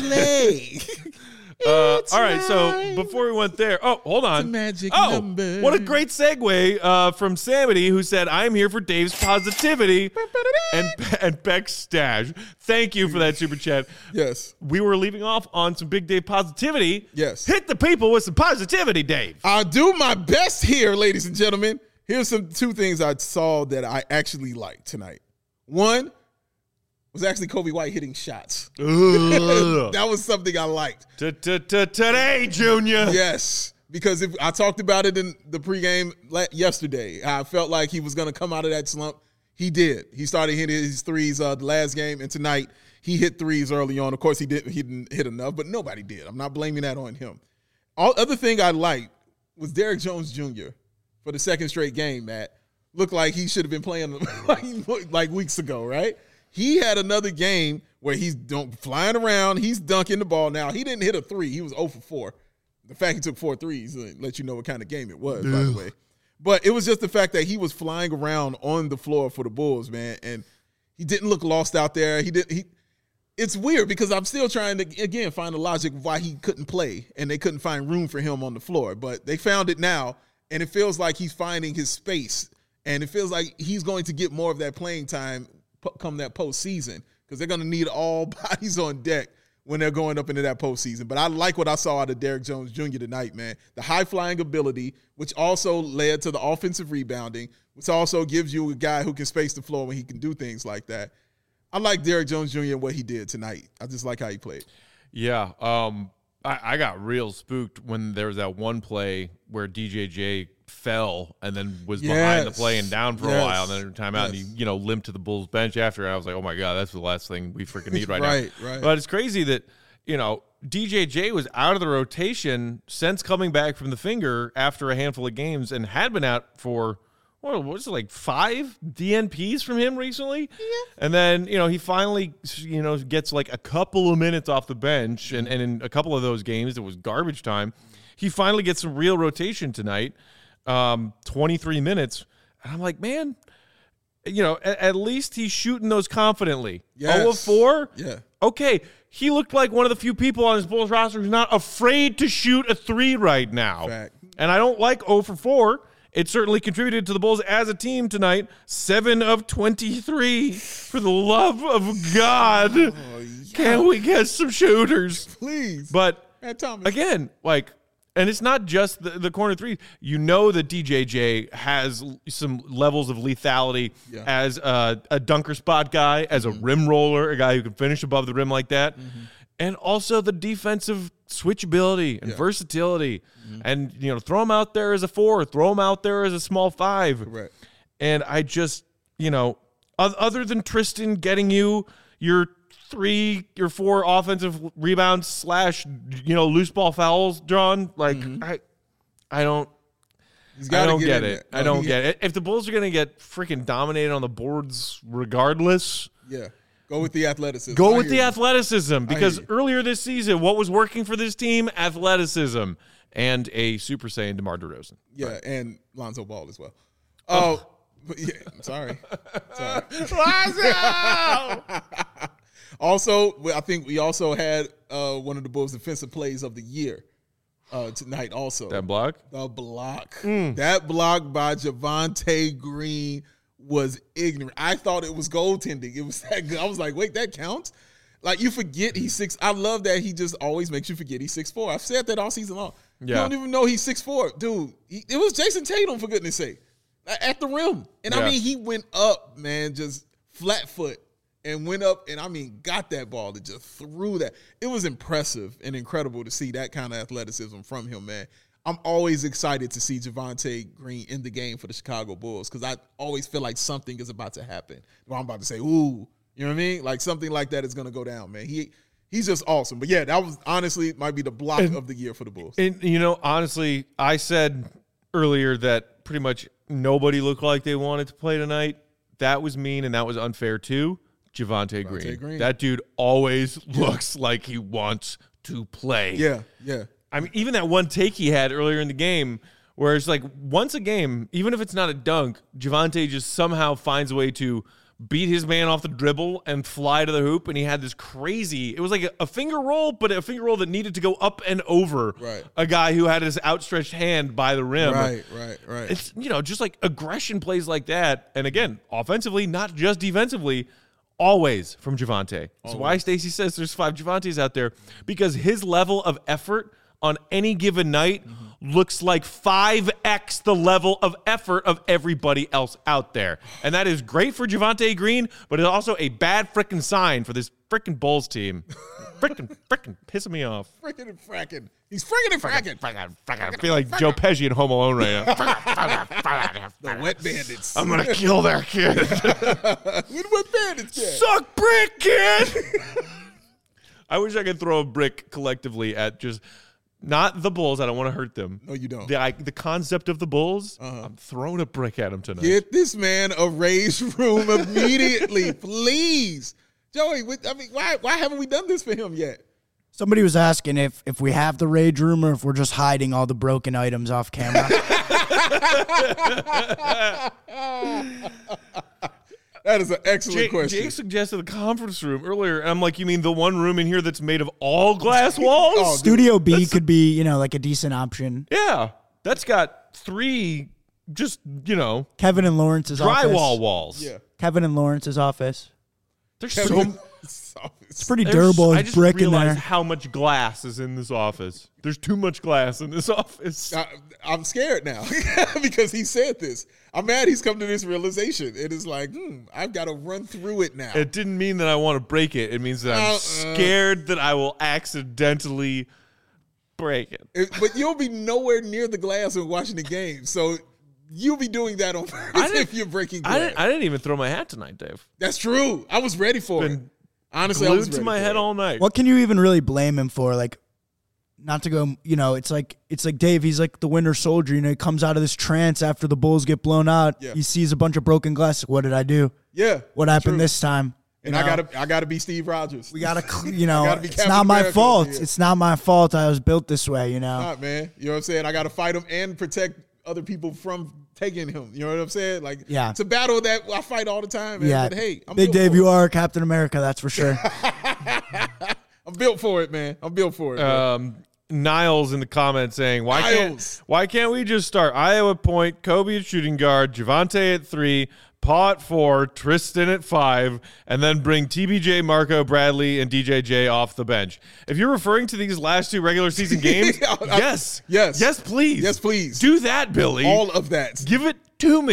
All right, so before we went there, hold on. It's a magic number. What a great segue from Samity, who said, I'm here for Dave's positivity and Beck's stash. Thank you for that super chat. Yes. We were leaving off on some Big Dave positivity. Yes. Hit the people with some positivity, Dave. I'll do my best here, ladies and gentlemen. Here's two things I saw that I actually liked tonight. One was actually Kobe White hitting shots. That was something I liked. Today, Junior. Yes, because if I talked about it in the pregame yesterday. I felt like he was going to come out of that slump. He did. He started hitting his threes the last game, and tonight he hit threes early on. Of course, he didn't hit enough, but nobody did. I'm not blaming that on him. Other thing I liked was Derrick Jones Jr. for the second straight game, Matt. Looked like he should have been playing like weeks ago, right? He had another game where he's flying around. He's dunking the ball now. He didn't hit a three. He was 0 for 4. The fact he took 4 threes let you know what kind of game it was, by the way. But it was just the fact that he was flying around on the floor for the Bulls, man, and he didn't look lost out there. It's weird because I'm still trying to, again, find the logic of why he couldn't play, and they couldn't find room for him on the floor. But they found it now, and it feels like he's finding his space, and it feels like he's going to get more of that playing time come that postseason, because they're going to need all bodies on deck when they're going up into that postseason. But I like what I saw out of Derrick Jones Jr. tonight, man. The high-flying ability, which also led to the offensive rebounding, which also gives you a guy who can space the floor when he can do things like that. I like Derrick Jones Jr. and what he did tonight. I just like how he played. Yeah, I got real spooked when there was that one play where DJJ fell and then was behind the play and down for a while, and then timeout, and he limped to the Bulls bench after. And I was like, oh my God, that's the last thing we freaking need right now. Right. But it's crazy that DJJ was out of the rotation since coming back from the finger after a handful of games, and had been out for what was it, like 5 DNPs from him recently? Yeah. And then, he finally, gets like a couple of minutes off the bench, and in a couple of those games it was garbage time. He finally gets some real rotation tonight. 23 minutes. And I'm like, man, at least he's shooting those confidently. Yes. 0 of 4? Yeah. Okay. He looked like one of the few people on his Bulls roster who's not afraid to shoot a 3 right now. Fact. And I don't like 0 for 4. It certainly contributed to the Bulls as a team tonight. 7 of 23. For the love of God. Can we get some shooters? Please. But Thomas. Again, and it's not just the corner three. That DJJ has some levels of lethality as a dunker spot guy, as a rim roller, a guy who can finish above the rim like that. and also the defensive switchability and versatility. And, throw him out there as a 4, throw him out there as a small 5. Correct. And I just, other than Tristan getting you your 3 or 4 offensive rebounds / loose ball fouls drawn, like, I don't get it. I don't get it. If the Bulls are going to get freaking dominated on the boards regardless. Yeah. Go with the athleticism. Go with the athleticism, because earlier this season, what was working for this team? Athleticism and a Super Saiyan DeMar DeRozan. Yeah, and Lonzo Ball as well. Oh, but yeah, I'm sorry. Lonzo! Also, I think we also had one of the Bulls' defensive plays of the year tonight also. That block? The block. That block by Javonte Green was ignorant. I thought it was goaltending. It was that good. I was like, wait, that counts? Like, you forget he's 6. I love that he just always makes you forget he's 6'4". I've said that all season long. Yeah. You don't even know he's 6'4". Dude, it was Jason Tatum, for goodness sake, at the rim. And, I mean, he went up, man, just flat foot, and went up and, got that ball and just threw that. It was impressive and incredible to see that kind of athleticism from him, man. I'm always excited to see Javonte Green in the game for the Chicago Bulls, because I always feel like something is about to happen. Well, I'm about to say, ooh, you know what I mean? Like, something like that is going to go down, man. He's just awesome. But, yeah, that was honestly might be the block of the year for the Bulls. And, honestly, I said earlier that pretty much nobody looked like they wanted to play tonight. That was mean, and that was unfair, too. Javonte Green. That dude always looks like he wants to play. Yeah. I mean, even that one take he had earlier in the game, where it's like once a game, even if it's not a dunk, Javonte just somehow finds a way to beat his man off the dribble and fly to the hoop. And he had this crazy, it was like a finger roll, but a finger roll that needed to go up and over a guy who had his outstretched hand by the rim. Right. It's, just like aggression plays like that. And again, offensively, not just defensively, always from Javonte. That's why Stacey says there's 5 Javantes out there, because his level of effort on any given night looks like 5x the level of effort of everybody else out there. And that is great for Javonte Green, but it's also a bad freaking sign for this freaking Bulls team. Freaking pissing me off. Frickin' and fracking. He's frickin' and fracking. I feel like Joe Pesci in Home Alone right now. The Wet Bandits. I'm going to kill that kid. With Wet Bandits, kid. Suck brick, kid. I wish I could throw a brick collectively at just... Not the Bulls. I don't want to hurt them. No, you don't. The concept of the Bulls, I'm throwing a brick at him tonight. Get this man a raised room immediately, please. Joey, why haven't we done this for him yet? Somebody was asking if we have the rage room or if we're just hiding all the broken items off camera. That is an excellent question. Jake suggested the conference room earlier, and I'm like, you mean the one room in here that's made of all glass walls? Oh, Studio B could be, like a decent option. Yeah. That's got 3 just, Kevin and Lawrence's office. drywall walls. Yeah. Kevin and Lawrence's office. There's It's pretty durable. I It's just brick in there. realized how much glass is in this office. There's too much glass in this office. I'm scared now because he said this. I'm mad he's come to this realization. It is like, I've got to run through it now. It didn't mean that I want to break it. It means that I'm scared that I will accidentally break it. But you'll be nowhere near the glass when watching the game. So you'll be doing that on purpose if you're breaking glass. I didn't even throw my hat tonight, Dave. That's true. I was ready for it. Honestly, I Glued was ready to my for head it. all night. What can you even really blame him for? Like, not to go, it's like Dave, he's like the winter soldier. He comes out of this trance after the Bulls get blown out. Yeah. He sees a bunch of broken glass. What did I do? Yeah. What happened true. this time? And I gotta be Steve Rogers. We gotta, gotta be it's Captain not my America fault. over here. It's not my fault. I was built this way. Not, man. You know what I'm saying? I gotta fight him and protect other people from taking him. You know what I'm saying? Like, Yeah. It's a battle that I fight all the time, man. Yeah. But hey, I'm Big built Dave, for you it. are Captain America. That's for sure. I'm built for it, man. I'm built for it. man. Niles in the comments saying, Niles. why can't we just start Iowa at point, Kobe at shooting guard, Javonte at 3, Paul at 4, Tristan at 5, and then bring TBJ, Marco, Bradley, and DJJ off the bench? If you're referring to these last 2 regular season games, yes, Yes. please. Yes, please. Do that, Billy. All of that. Give it to me.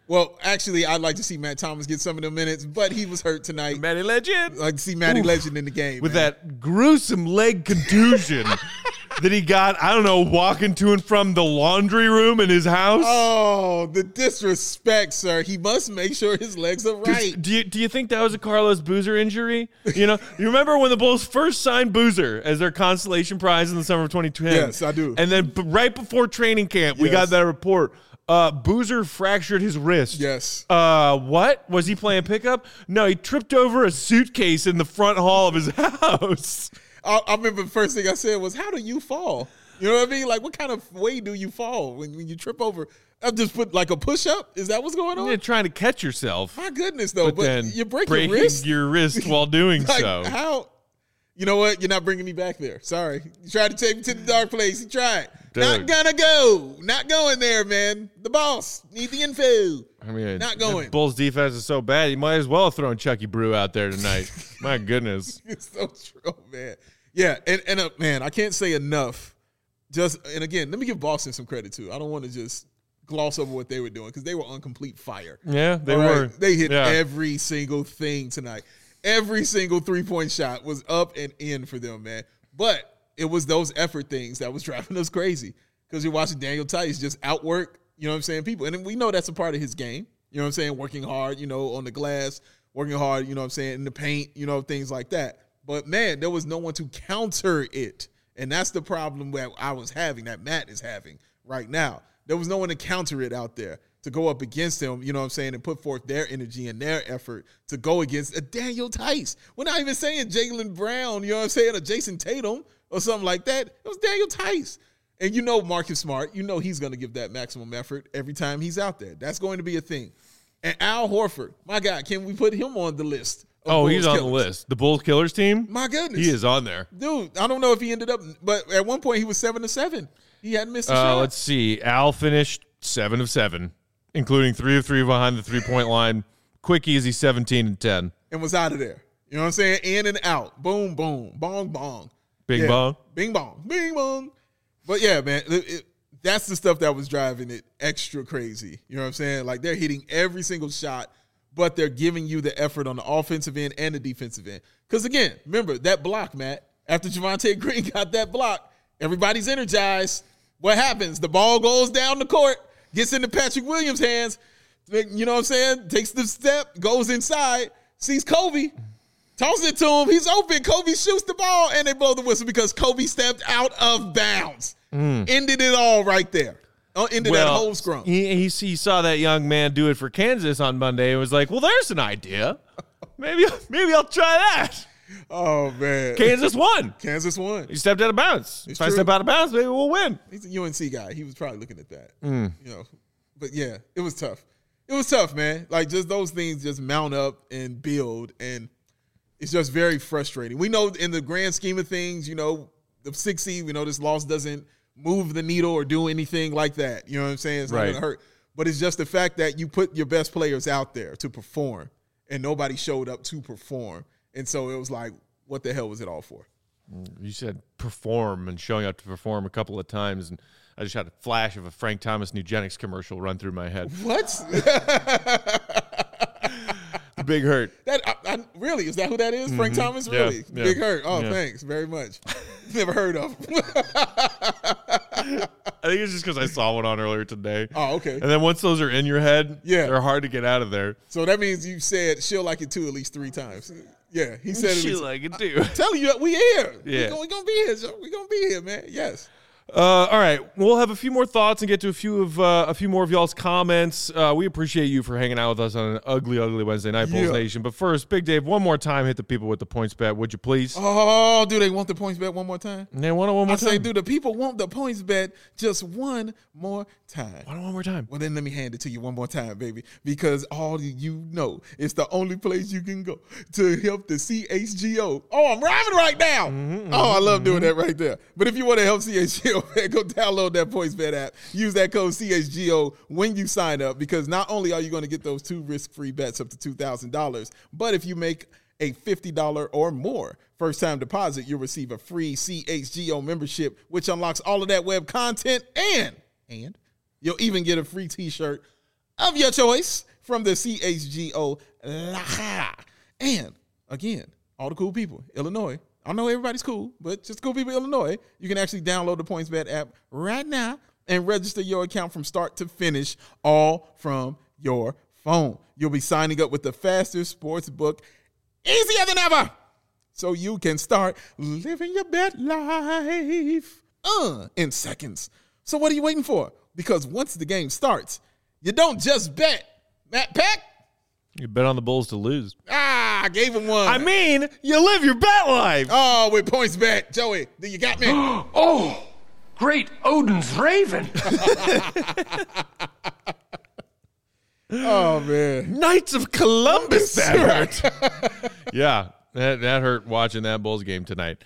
Well, actually, I'd like to see Matt Thomas get some of the minutes, but he was hurt tonight. Matty Legend. I'd like to see Matty Legend in the game. With man. that gruesome leg contusion that he got, I don't know, walking to and from the laundry room in his house. Oh, the disrespect, sir. He must make sure his legs are right. Do you think that was a Carlos Boozer injury? You remember when the Bulls first signed Boozer as their consolation prize in the summer of 2010? Yes, I do. And then right before training camp, we got that report. Boozer fractured his wrist. Yes. What? Was he playing pickup? No, he tripped over a suitcase in the front hall of his house. I remember the first thing I said was, how do you fall? You know what I mean? Like, what kind of way do you fall when you trip over? I've just put like a push-up? Is that what's going on? You're trying to catch yourself. My goodness, though. But then you break breaking your wrist? while doing Like, so. how? You know what? You're not bringing me back there. Sorry. You tried to take me to the dark place. You tried. Dude. Not gonna go. Not going there, man. The boss. Need the info. I mean, not going. the Bulls defense is so bad, you might as well have thrown Chucky Brew out there tonight. My goodness. It's so true, man. Yeah, and man, I can't say enough. And again, let me give Boston some credit too. I don't want to just gloss over what they were doing because they were on complete fire. Yeah, they All were. Right? They hit every single thing tonight. Every single three-point shot was up and in for them, man. But it was those effort things that was driving us crazy because you're watching Daniel Tice just outwork, you know what I'm saying, people. And we know that's a part of his game, you know what I'm saying, working hard, on the glass, working hard, you know what I'm saying, in the paint, things like that. But, man, there was no one to counter it. And that's the problem that I was having, that Matt is having right now. There was no one to counter it out there to go up against him, you know what I'm saying, and put forth their energy and their effort to go against a Daniel Tice. We're not even saying Jaylen Brown, you know what I'm saying, or Jason Tatum or something like that. It was Daniel Tice. And Marcus Smart, he's going to give that maximum effort every time he's out there. That's going to be a thing. And Al Horford, my God, can we put him on the list? Oh, he's on the list. The Bulls Killers team? My goodness. He is on there. Dude, I don't know if he ended up, but at one point he was 7-7. He hadn't missed a shot. Let's see. Al finished 7 of 7, including 3 of 3 behind the three-point line. Quick, easy 17 and 10. And was out of there. You know what I'm saying? In and out. Boom, boom. Bong, bong. Bing, bong. Bing, bong. Bing, bong. But yeah, man, that's the stuff that was driving it extra crazy. You know what I'm saying? Like they're hitting every single shot, but they're giving you the effort on the offensive end and the defensive end. Because again, remember that block, Matt, after Javonte Green got that block, everybody's energized. What happens? The ball goes down the court, gets into Patrick Williams' hands, you know what I'm saying? Takes the step, goes inside, sees Kobe, tosses it to him. He's open. Kobe shoots the ball, and they blow the whistle because Kobe stepped out of bounds. Ended it all right there. Ended that whole scrum. He saw that young man do it for Kansas on Monday and was like, well, there's an idea. Maybe I'll try that. Oh, man. Kansas won. Kansas won. He stepped out of bounds. If I step out of bounds, maybe we'll win. He's a UNC guy. He was probably looking at that. But yeah, it was tough. It was tough, man. Like just those things just mount up and build, and it's just very frustrating. We know in the grand scheme of things, the 6 seed, this loss doesn't move the needle or do anything like that. You know what I'm saying? It's not going to hurt. But it's just the fact that you put your best players out there to perform, and nobody showed up to perform. And so it was like, what the hell was it all for? You said perform and showing up to perform a couple of times, and I just had a flash of a Frank Thomas Nugenics commercial run through my head. What? The Big Hurt. Really? Is that who that is? Frank Thomas? Really? Yeah. Big Hurt. Oh, thanks very much. Never heard of him. I think it's just because I saw one on earlier today. Oh, okay. And then once those are in your head, they're hard to get out of there. So that means you said she'll like it too at least 3 times. Yeah, he said it. She'll like it too. I'm telling you, we here. Yeah. We're going to be here. We're going to be here, man. Yes. All right, we'll have a few more thoughts and get to a few more of y'all's comments. We appreciate you for hanging out with us on an ugly Wednesday night, Bulls Nation. But first, Big Dave, one more time, hit the people with the points bet, would you please? Oh, do they want the points bet one more time? They want it one more time. I say, do the people want the points bet just one more time? Want it one more time? Well, then let me hand it to you one more time, baby, because all you know, it's the only place you can go to help the CHGO. Oh, I'm rhyming right now. I love doing that right there. But if you want to help CHGO, go download that PointsBet app. Use that code CHGO when you sign up, because not only are you going to get those 2 risk-free bets up to $2,000, but if you make a $50 or more first-time deposit, you'll receive a free CHGO membership, which unlocks all of that web content, and you'll even get a free T-shirt of your choice from the CHGO. And again, all the cool people, Illinois. I know everybody's cool, but just cool people, Illinois. You can actually download the PointsBet app right now and register your account from start to finish, all from your phone. You'll be signing up with the fastest sports book, easier than ever, so you can start living your bet life in seconds. So what are you waiting for? Because once the game starts, you don't just bet. Matt Peck? You bet on the Bulls to lose. I gave him one. I mean, you live your bet life. Oh, with PointsBet. Joey, you got me. Oh, great Odin's Raven. Oh, man. Knights of Columbus, that hurt. Yeah, that hurt watching that Bulls game tonight.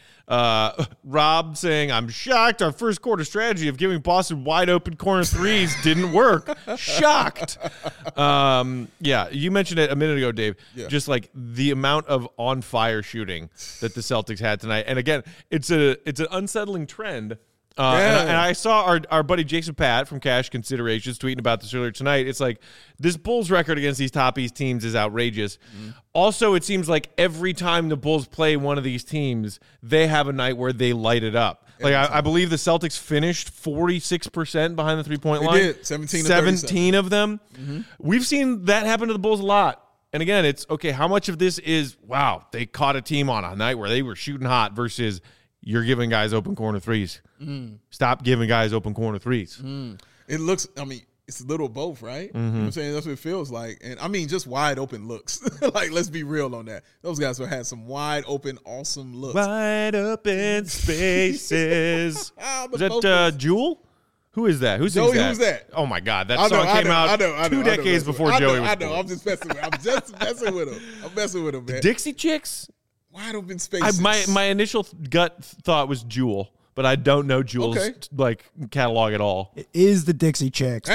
Rob saying, I'm shocked our first quarter strategy of giving Boston wide open corner threes didn't work. Shocked. Yeah, you mentioned it a minute ago, Dave. Yeah. Just like the amount of on fire shooting that the Celtics had tonight. And again, it's an unsettling trend. And I saw our buddy Jason Pat from Cash Considerations tweeting about this earlier tonight. It's like this Bulls record against these top East teams is outrageous. Mm-hmm. Also, it seems like every time the Bulls play one of these teams, they have a night where they light it up. Like I believe the Celtics finished 46% behind the three-point line. They did, 17 of them. Mm-hmm. We've seen that happen to the Bulls a lot. And again, it's, okay, how much of this is, wow, they caught a team on a night where they were shooting hot versus you're giving guys open corner threes. Stop giving guys open corner threes. It looks, I mean, it's a little both, right? You know what I'm saying? That's what it feels like. And I mean, just wide open looks. Like, let's be real on that. Those guys have had some wide open, awesome looks. Wide open spaces. Is that Jewel? Who is that? Who sings Joey, that? who's that? Oh, my God. That song came out 2 decades before Joey was born. I'm just messing with him. I'm just messing with him. I'm messing with him, man. Dixie Chicks? Wide open spaces. My initial gut thought was Jewel, but I don't know Jewel's catalog at all. It is the Dixie Chicks.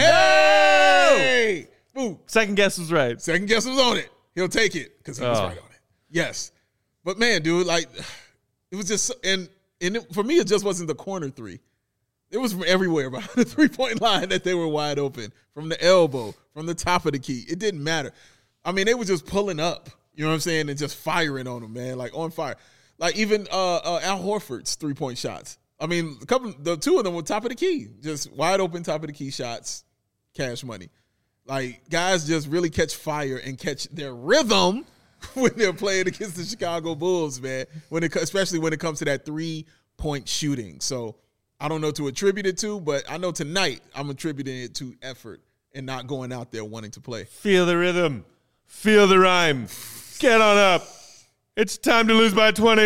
Hey! Ooh. Second guess was right. Second guess was on it. He'll take it because he was right on it. Yes. But, man, dude, like, it was just – and for me, it just wasn't the corner three. It was from everywhere behind the three-point line that they were wide open, from the elbow, from the top of the key. It didn't matter. I mean, they were just pulling up, you know what I'm saying, and just firing on them, man, like on fire. Like even Al Horford's three-point shots. I mean, the two of them were top of the key, just wide open top of the key shots, cash money. Like, guys just really catch fire and catch their rhythm when they're playing against the Chicago Bulls, man, especially when it comes to that three-point shooting. So I don't know to attribute it to, but I know tonight I'm attributing it to effort and not going out there wanting to play. Feel the rhythm. Feel the rhyme. Get on up. It's time to lose by 20.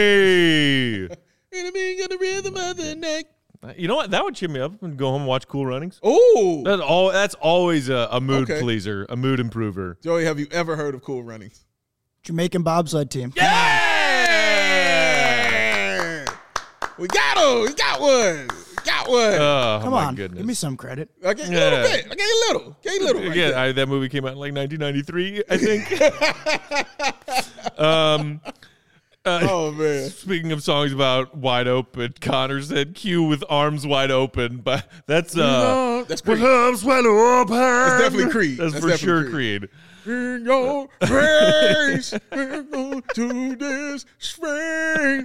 Enemy got the rhythm of the neck. You know what? That would cheer me up and go home and watch Cool Runnings. Oh, That's always a mood pleaser, a mood improver. Joey, have you ever heard of Cool Runnings? Jamaican bobsled team. Yeah! We got him. We got one. Oh, Come my on, goodness. give me some credit. I gave you a little bit. I gave you a little. Right there. That movie came out in like 1993, I think. Oh, man. Speaking of songs about wide open, Connor said "Q with arms wide open," but that's That's Creed. with arms wide open. That's definitely Creed. That's for definitely sure Creed. In your face, we're going to this space.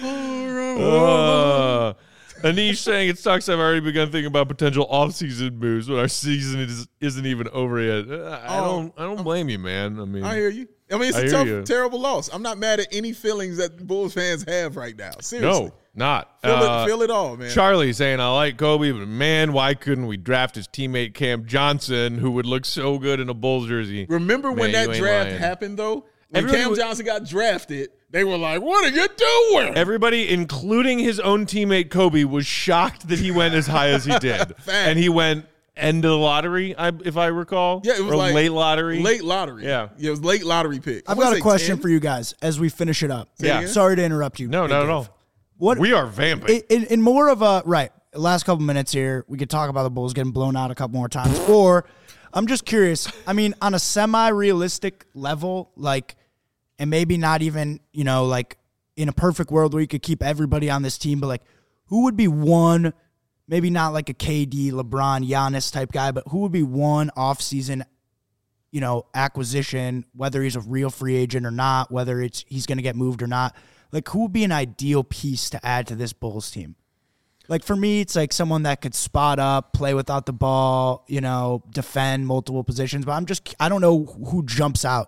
Anish saying it sucks. I've already begun thinking about potential off-season moves, but our season isn't even over yet. I don't blame you, man. I mean, I hear you. I mean, it's a tough, terrible loss. I'm not mad at any feelings that Bulls fans have right now. Seriously. No, not. Feel it all, man. Charlie saying, I like Kobe, but man, why couldn't we draft his teammate Cam Johnson, who would look so good in a Bulls jersey? Remember when that draft happened, though? When Cam Johnson got drafted, they were like, what are you doing? Everybody, including his own teammate Kobe, was shocked that he went as high as he did. And he went end of the lottery, if I recall. Yeah, it was like late lottery. Late lottery. Yeah. It was late lottery pick. I've got a question for you guys as we finish it up. Yeah. Sorry to interrupt you. No, not at all. What we are vamping. In more of a last couple minutes here, we could talk about the Bulls getting blown out a couple more times. Or I'm just curious. I mean, on a semi-realistic level, like, and maybe not even, like in a perfect world where you could keep everybody on this team, but like, who would be one? Maybe not like a KD, LeBron, Giannis type guy, but who would be one off-season acquisition, whether he's a real free agent or not, whether he's going to get moved or not. Like, who would be an ideal piece to add to this Bulls team? Like, for me, it's like someone that could spot up, play without the ball, defend multiple positions. But I don't know who jumps out,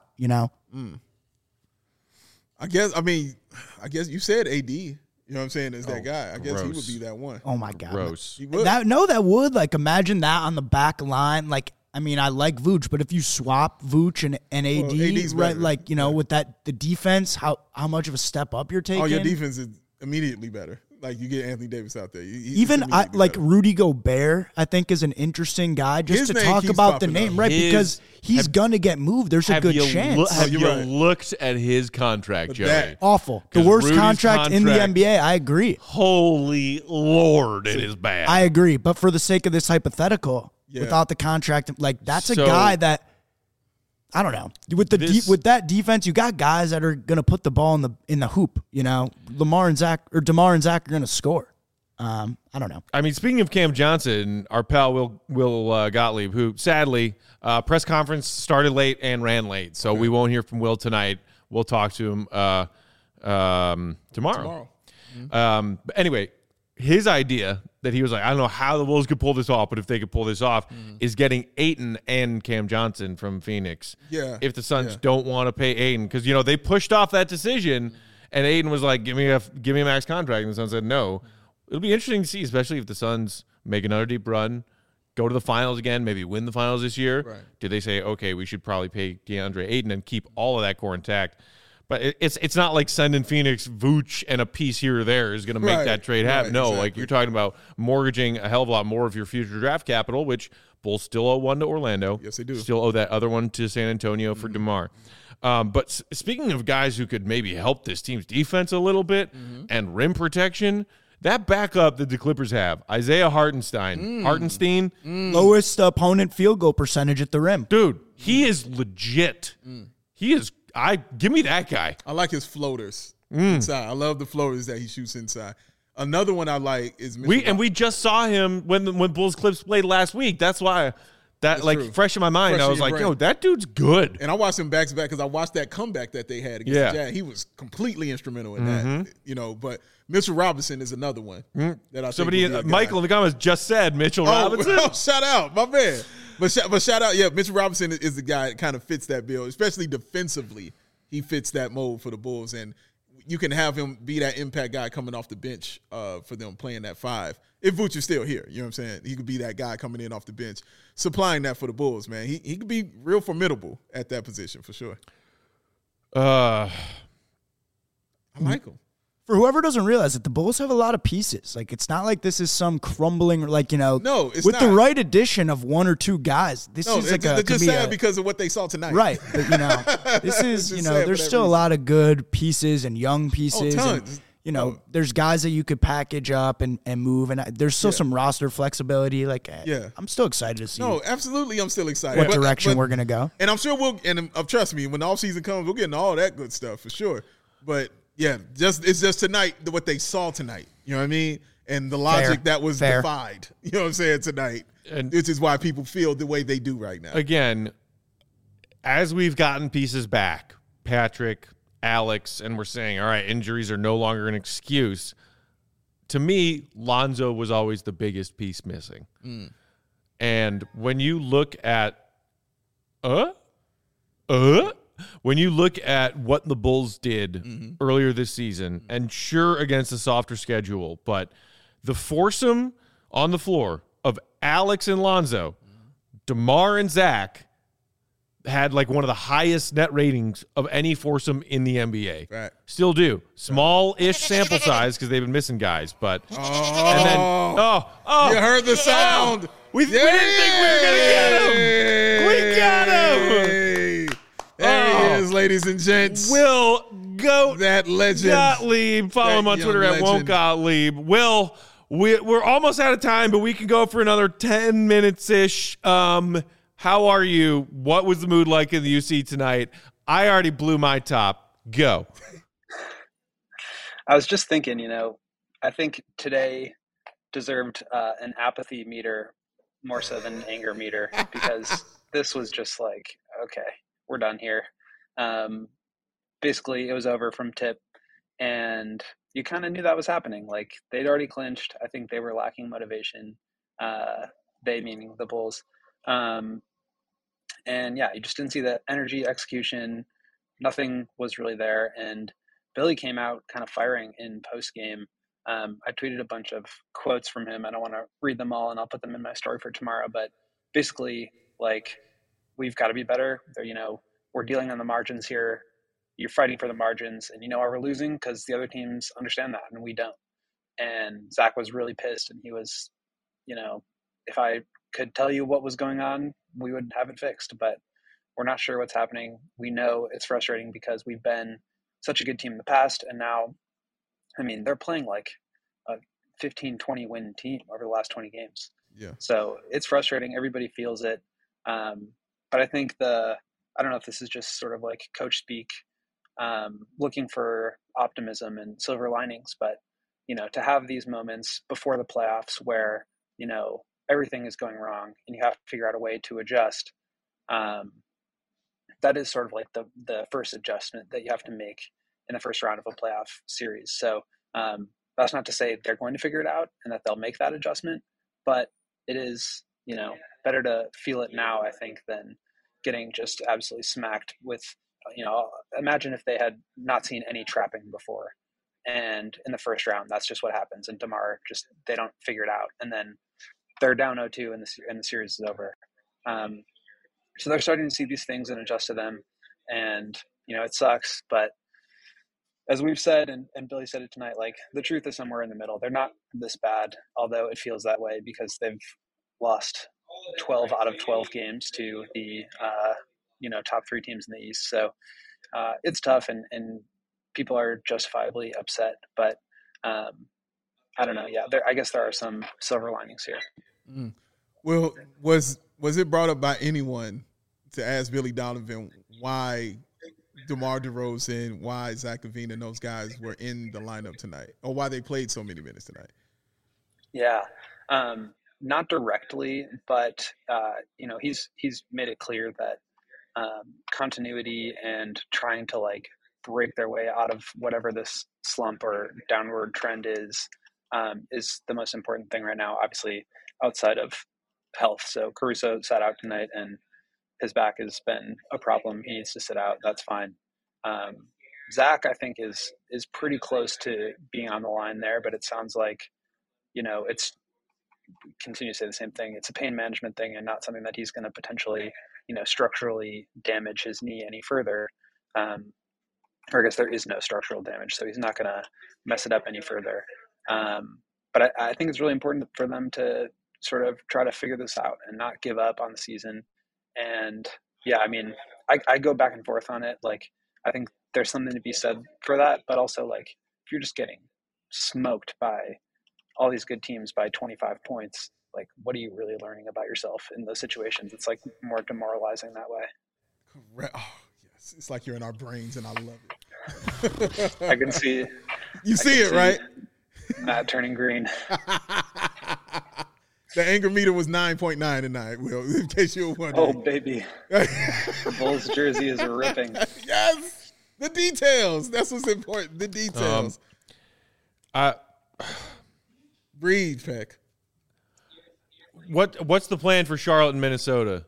I guess you said AD. You know what I'm saying? Is that guy. I guess he would be that one. Oh, my God. Gross. He would. That would. Like, imagine that on the back line. Like, I mean, I like Vooch, but if you swap Vooch and AD, AD's right, better. like, with the defense, how much of a step up you're taking? Oh, your defense is immediately better. Like, you get Anthony Davis out there. Even Rudy Gobert, I think, is an interesting guy just His to name talk keeps about the popping name, up. right? Because he's going to get moved. There's a good chance. Have you you're right. looked at his contract, Joey? that- Awful. The 'Cause worst Rudy's contract in the contract- NBA. I agree. Holy Lord, it is bad. I agree. But for the sake of this hypothetical, Yeah. without the contract, like, that's a So- guy that, I don't know. With with that defense, you got guys that are going to put the ball in the hoop. DeMar and Zach are going to score. I don't know. I mean, speaking of Cam Johnson, our pal Will Gottlieb, who sadly press conference started late and ran late, so we won't hear from Will tonight. We'll talk to him tomorrow. But anyway, his idea that he was like, I don't know how the Wolves could pull this off, but if they could pull this off, is getting Ayton and Cam Johnson from Phoenix. Yeah. If the Suns don't want to pay Ayton, because they pushed off that decision, and Ayton was like, give me a max contract, and the Suns said no. It'll be interesting to see, especially if the Suns make another deep run, go to the finals again, maybe win the finals this year. Right. Do they say, okay, we should probably pay DeAndre Ayton and keep all of that core intact? But it's not like sending Phoenix Vooch and a piece here or there is going to make that trade happen. No, exactly. like you're talking about mortgaging a hell of a lot more of your future draft capital, which Bulls still owe one to Orlando. Yes, they do. Still owe that other one to San Antonio for DeMar. But speaking of guys who could maybe help this team's defense a little bit and rim protection, that backup that the Clippers have, Isaiah Hartenstein, Lowest opponent field goal percentage at the rim. dude, he is legit. He is. Give me that guy. I like his floaters inside. I love the floaters that he shoots inside. Another one I like is We just saw him when Bulls Clips played last week. That's why true. fresh in my mind. Fresh I in was your like, brain. yo, that dude's good. And I watched him back to back because I watched that comeback that they had against the Jazz. He was completely instrumental in that. But Mitchell Robinson is another one that I think Somebody, would be a guy. Michael in the comments just said Mitchell Robinson. Oh, shout out, my man. But shout out, Mitchell Robinson is the guy that kind of fits that bill, especially defensively. He fits that mold for the Bulls, and you can have him be that impact guy coming off the bench for them playing that five. If Vooch is still here, you know what I'm saying? He could be that guy coming in off the bench, supplying that for the Bulls, man. He could be real formidable at that position for sure. I like him. For whoever doesn't realize it, the Bulls have a lot of pieces. Like, it's not like this is some crumbling, like, No, it's with not. the right addition of one or two guys. This No, is like it's could just be sad because of what they saw tonight. right. But, this is, It's just sad for there's that still a reason. lot of good pieces and young pieces. tons. And, there's guys that you could package up and move, and there's still some roster flexibility. Like, I'm still excited to see No, absolutely, I'm still excited. what But- direction but- we're gonna go. And I'm sure trust me, when the offseason comes, we'll get into all that good stuff for sure. But yeah, it's just tonight, what they saw tonight. You know what I mean? And the logic that was Fair. defied. You know what I'm saying, tonight. And- This is why people feel the way they do right now. Again, as we've gotten pieces back, Patrick, Alex, and we're saying, all right, injuries are no longer an excuse. To me, Lonzo was always the biggest piece missing. And when you look at when you look at what the Bulls did earlier this season, and sure, against a softer schedule, but the foursome on the floor of Alex and Lonzo, DeMar and Zach had like one of the highest net ratings of any foursome in the NBA. Right. Still do. Small-ish sample size because they've been missing guys, but and then You heard the sound. we didn't think we were gonna get him. We got him. There he is, ladies and gents. Will Goat That legend. Gottlieb. Follow him on That Twitter young at Won't legend. Gottlieb. Will, we're almost out of time, but we can go for another 10 minutes-ish. How are you? What was the mood like in the UC tonight? I already blew my top. Go. I was just thinking, I think today deserved an apathy meter more so than an anger meter because this was just like okay, we're done here. Basically, it was over from tip, and you kind of knew that was happening. Like, they'd already clinched. I think they were lacking motivation. They meaning the Bulls. And yeah, you just didn't see the energy, execution. Nothing was really there. And Billy came out kind of firing in post game. I tweeted a bunch of quotes from him. I don't want to read them all, and I'll put them in my story for tomorrow. But basically, like, we've got to be better. We're dealing on the margins here. You're fighting for the margins, and you know why we're losing, because the other teams understand that, and we don't. And Zach was really pissed, and he was, if I could tell you what was going on, we would have it fixed. But we're not sure what's happening. We know it's frustrating because we've been such a good team in the past, and now, I mean, they're playing like a 15, 20 win team over the last 20 games. Yeah. So it's frustrating. Everybody feels it. But I think I don't know if this is just sort of like coach speak, looking for optimism and silver linings, but, to have these moments before the playoffs where, everything is going wrong and you have to figure out a way to adjust. That is sort of like the first adjustment that you have to make in the first round of a playoff series. So that's not to say they're going to figure it out and that they'll make that adjustment, but it is, better to feel it now, I think, than getting just absolutely smacked with, imagine if they had not seen any trapping before. And in the first round, that's just what happens. And DeMar they don't figure it out. And then they're down 0-2 and the series is over. So they're starting to see these things and adjust to them. And, it sucks. But as we've said, and Billy said it tonight, like, the truth is somewhere in the middle. They're not this bad, although it feels that way because they've lost 12 out of 12 games to the, top three teams in the East. So it's tough and people are justifiably upset. But I don't know. Yeah, I guess there are some silver linings here. Mm. Well, was it brought up by anyone to ask Billy Donovan why DeMar DeRozan, why Zach LaVine and those guys were in the lineup tonight, or why they played so many minutes tonight? Yeah, not directly, but he's made it clear that continuity and trying to like break their way out of whatever this slump or downward trend is the most important thing right now. Obviously, outside of health. So Caruso sat out tonight, and his back has been a problem. He needs to sit out. That's fine. Zach, I think, is pretty close to being on the line there, but it sounds like, it's continue to say the same thing. It's a pain management thing and not something that he's going to potentially, structurally damage his knee any further. Or I guess there is no structural damage, so he's not going to mess it up any further. But I think it's really important for them to sort of try to figure this out and not give up on the season. And yeah, I mean, I go back and forth on it. Like, I think there's something to be said for that, but also, like, if you're just getting smoked by all these good teams by 25 points, like, what are you really learning about yourself in those situations? It's like more demoralizing that way. Correct. Oh, yes. It's like you're in our brains and I love it. I can see. You see it, right? Matt turning green. The anger meter was 9.9 tonight, Will, in case you were wondering. Oh, baby. The Bulls jersey is ripping. Yes. The details. That's what's important. The details. Breathe, Peck. What's the plan for Charlotte and Minnesota?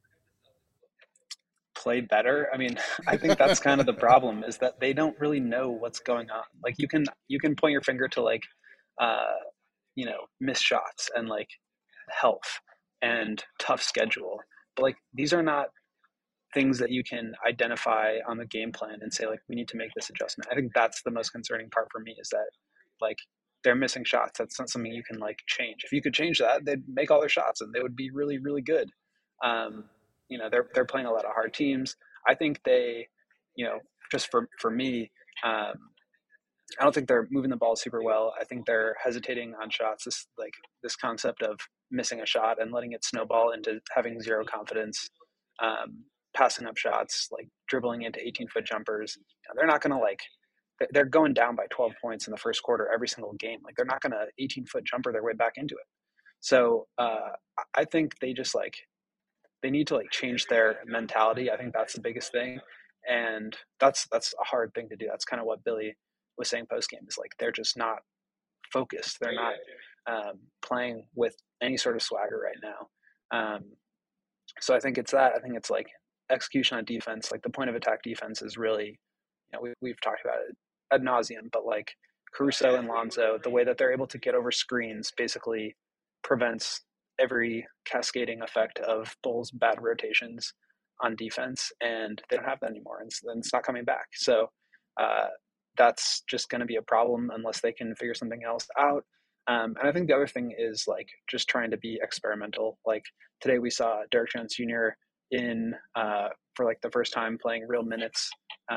Play better. I mean, I think that's kind of the problem, is that they don't really know what's going on. Like, you can point your finger to, like, missed shots and, like, health and tough schedule, but, like, these are not things that you can identify on the game plan and say, like, we need to make this adjustment. I think that's the most concerning part for me, is that, like, they're missing shots. That's not something you can, like, change. If you could change that, they'd make all their shots and they would be really, really good. They're playing a lot of hard teams. I think they, just for me, I don't think they're moving the ball super well. I think they're hesitating on shots. This concept of missing a shot and letting it snowball into having zero confidence, passing up shots, like dribbling into 18-foot jumpers. They're not going to, they're going down by 12 points in the first quarter every single game. Like, they're not going to 18-foot jumper their way back into it. So I think they just, like, they need to like change their mentality. I think that's the biggest thing. And that's a hard thing to do. That's kind of what Billy was saying post game, is like they're just not focused. They're not playing with any sort of swagger right now. So I think it's that. I think it's like execution on defense. Like the point of attack defense is really, we've talked about it ad nauseum, but like Caruso and Lonzo, the way that they're able to get over screens basically prevents every cascading effect of Bulls' bad rotations on defense, and they don't have that anymore, and then it's not coming back. So that's just going to be a problem unless they can figure something else out. And I think the other thing is like just trying to be experimental. Like today we saw Derek Jones Jr. in for like the first time playing real minutes,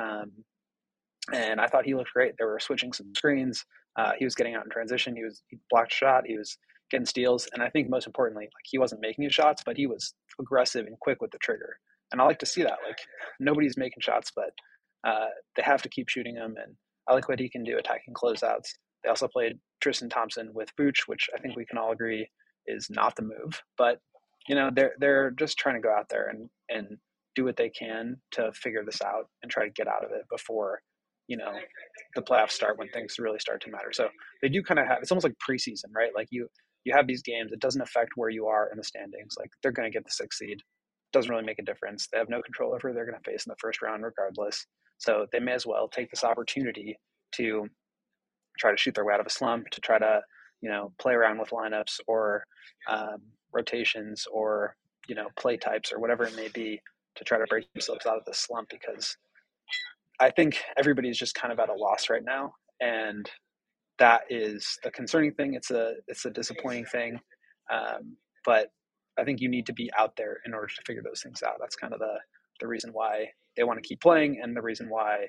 and I thought he looked great. They were switching some screens. He was getting out in transition. He blocked a shot. He was getting steals, and I think most importantly, like he wasn't making his shots, but he was aggressive and quick with the trigger. And I like to see that. Like nobody's making shots, but they have to keep shooting them. And I like what he can do attacking closeouts. They also played Tristan Thompson with Vooch, which I think we can all agree is not the move. But they're just trying to go out there and do what they can to figure this out and try to get out of it before the playoffs start, when things really start to matter. So they do kind of have, it's almost like preseason, right? Like you have these games. It doesn't affect where you are in the standings. Like they're going to get the 6th seed. Doesn't really make a difference. They have no control over who they're going to face in the first round regardless. So they may as well take this opportunity to try to shoot their way out of a slump, to try to, play around with lineups or rotations or, play types or whatever it may be, to try to break themselves out of the slump, because I think everybody's just kind of at a loss right now. And that is the concerning thing. It's a disappointing thing. But I think you need to be out there in order to figure those things out. That's kind of the reason why they want to keep playing, and the reason why,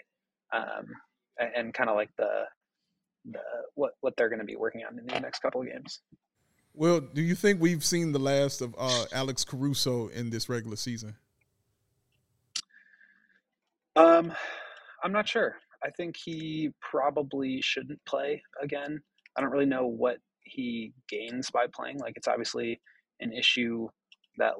and kind of like what they're going to be working on in the next couple of games. Well, do you think we've seen the last of Alex Caruso in this regular season? I'm not sure. I think he probably shouldn't play again. I don't really know what he gains by playing. Like it's obviously an issue that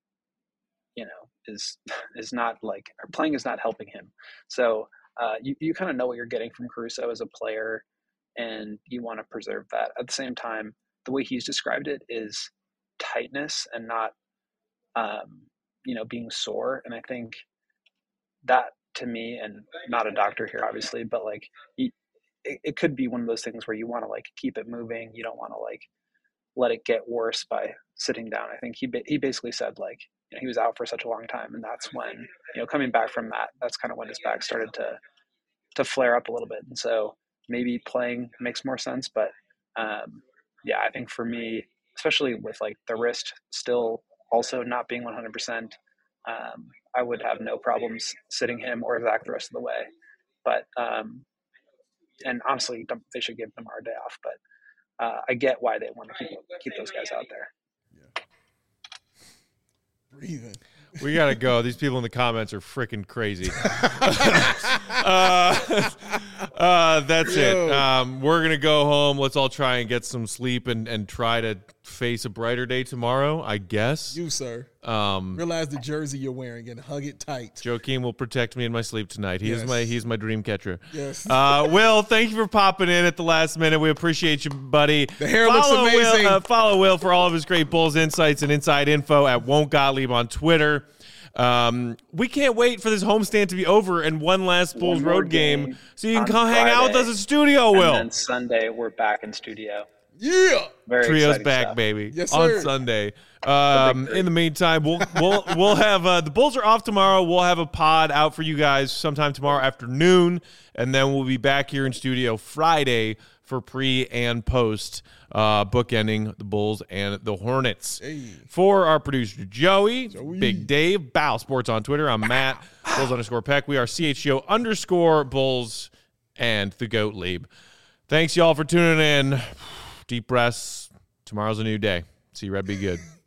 is not like, or playing is not helping him. So you kind of know what you're getting from Caruso as a player, and you want to preserve that. At the same time, the way he's described it is tightness and not, being sore. And I think that, to me, and not a doctor here, obviously, but like it could be one of those things where you want to like keep it moving. You don't want to like let it get worse by sitting down. I think he basically said like, he was out for such a long time, and that's when, coming back from that, that's kind of when his back started to flare up a little bit. And so maybe playing makes more sense. But I think for me, especially with like the wrist still also not being 100%, I would have no problems sitting him or Zach the rest of the way. But and honestly, they should give Demar a day off. But I get why they want to keep those guys out there. Yeah. Breathing. We gotta go. These people in the comments are freaking crazy. That's it. We're gonna go home. Let's all try and get some sleep and try to face a brighter day tomorrow, I guess. You, sir. Realize the jersey you're wearing and hug it tight. Joakim will protect me in my sleep tonight. He's my dream catcher. Yes. Will, thank you for popping in at the last minute. We appreciate you, buddy. The hair looks amazing. Follow Will for all of his great Bulls insights and inside info at Won't Gottlieb on Twitter. We can't wait for this homestand to be over and one last Bulls road game so you can come hang out with us at studio, Will. And then Sunday, we're back in studio. Yeah. Very Trio's back, stuff. baby. Yes, sir. On Sunday. In the meantime, we'll have the Bulls are off tomorrow. We'll have a pod out for you guys sometime tomorrow afternoon, and then we'll be back here in studio Friday for pre and post bookending the Bulls and the Hornets. Hey. For our producer Joey, Big Dave, Bow Sports on Twitter. I'm Matt, Bulls_Peck. We are CHGO_Bulls and the Gottlieb. Thanks y'all for tuning in. Deep breaths. Tomorrow's a new day. See you, Red. Be good.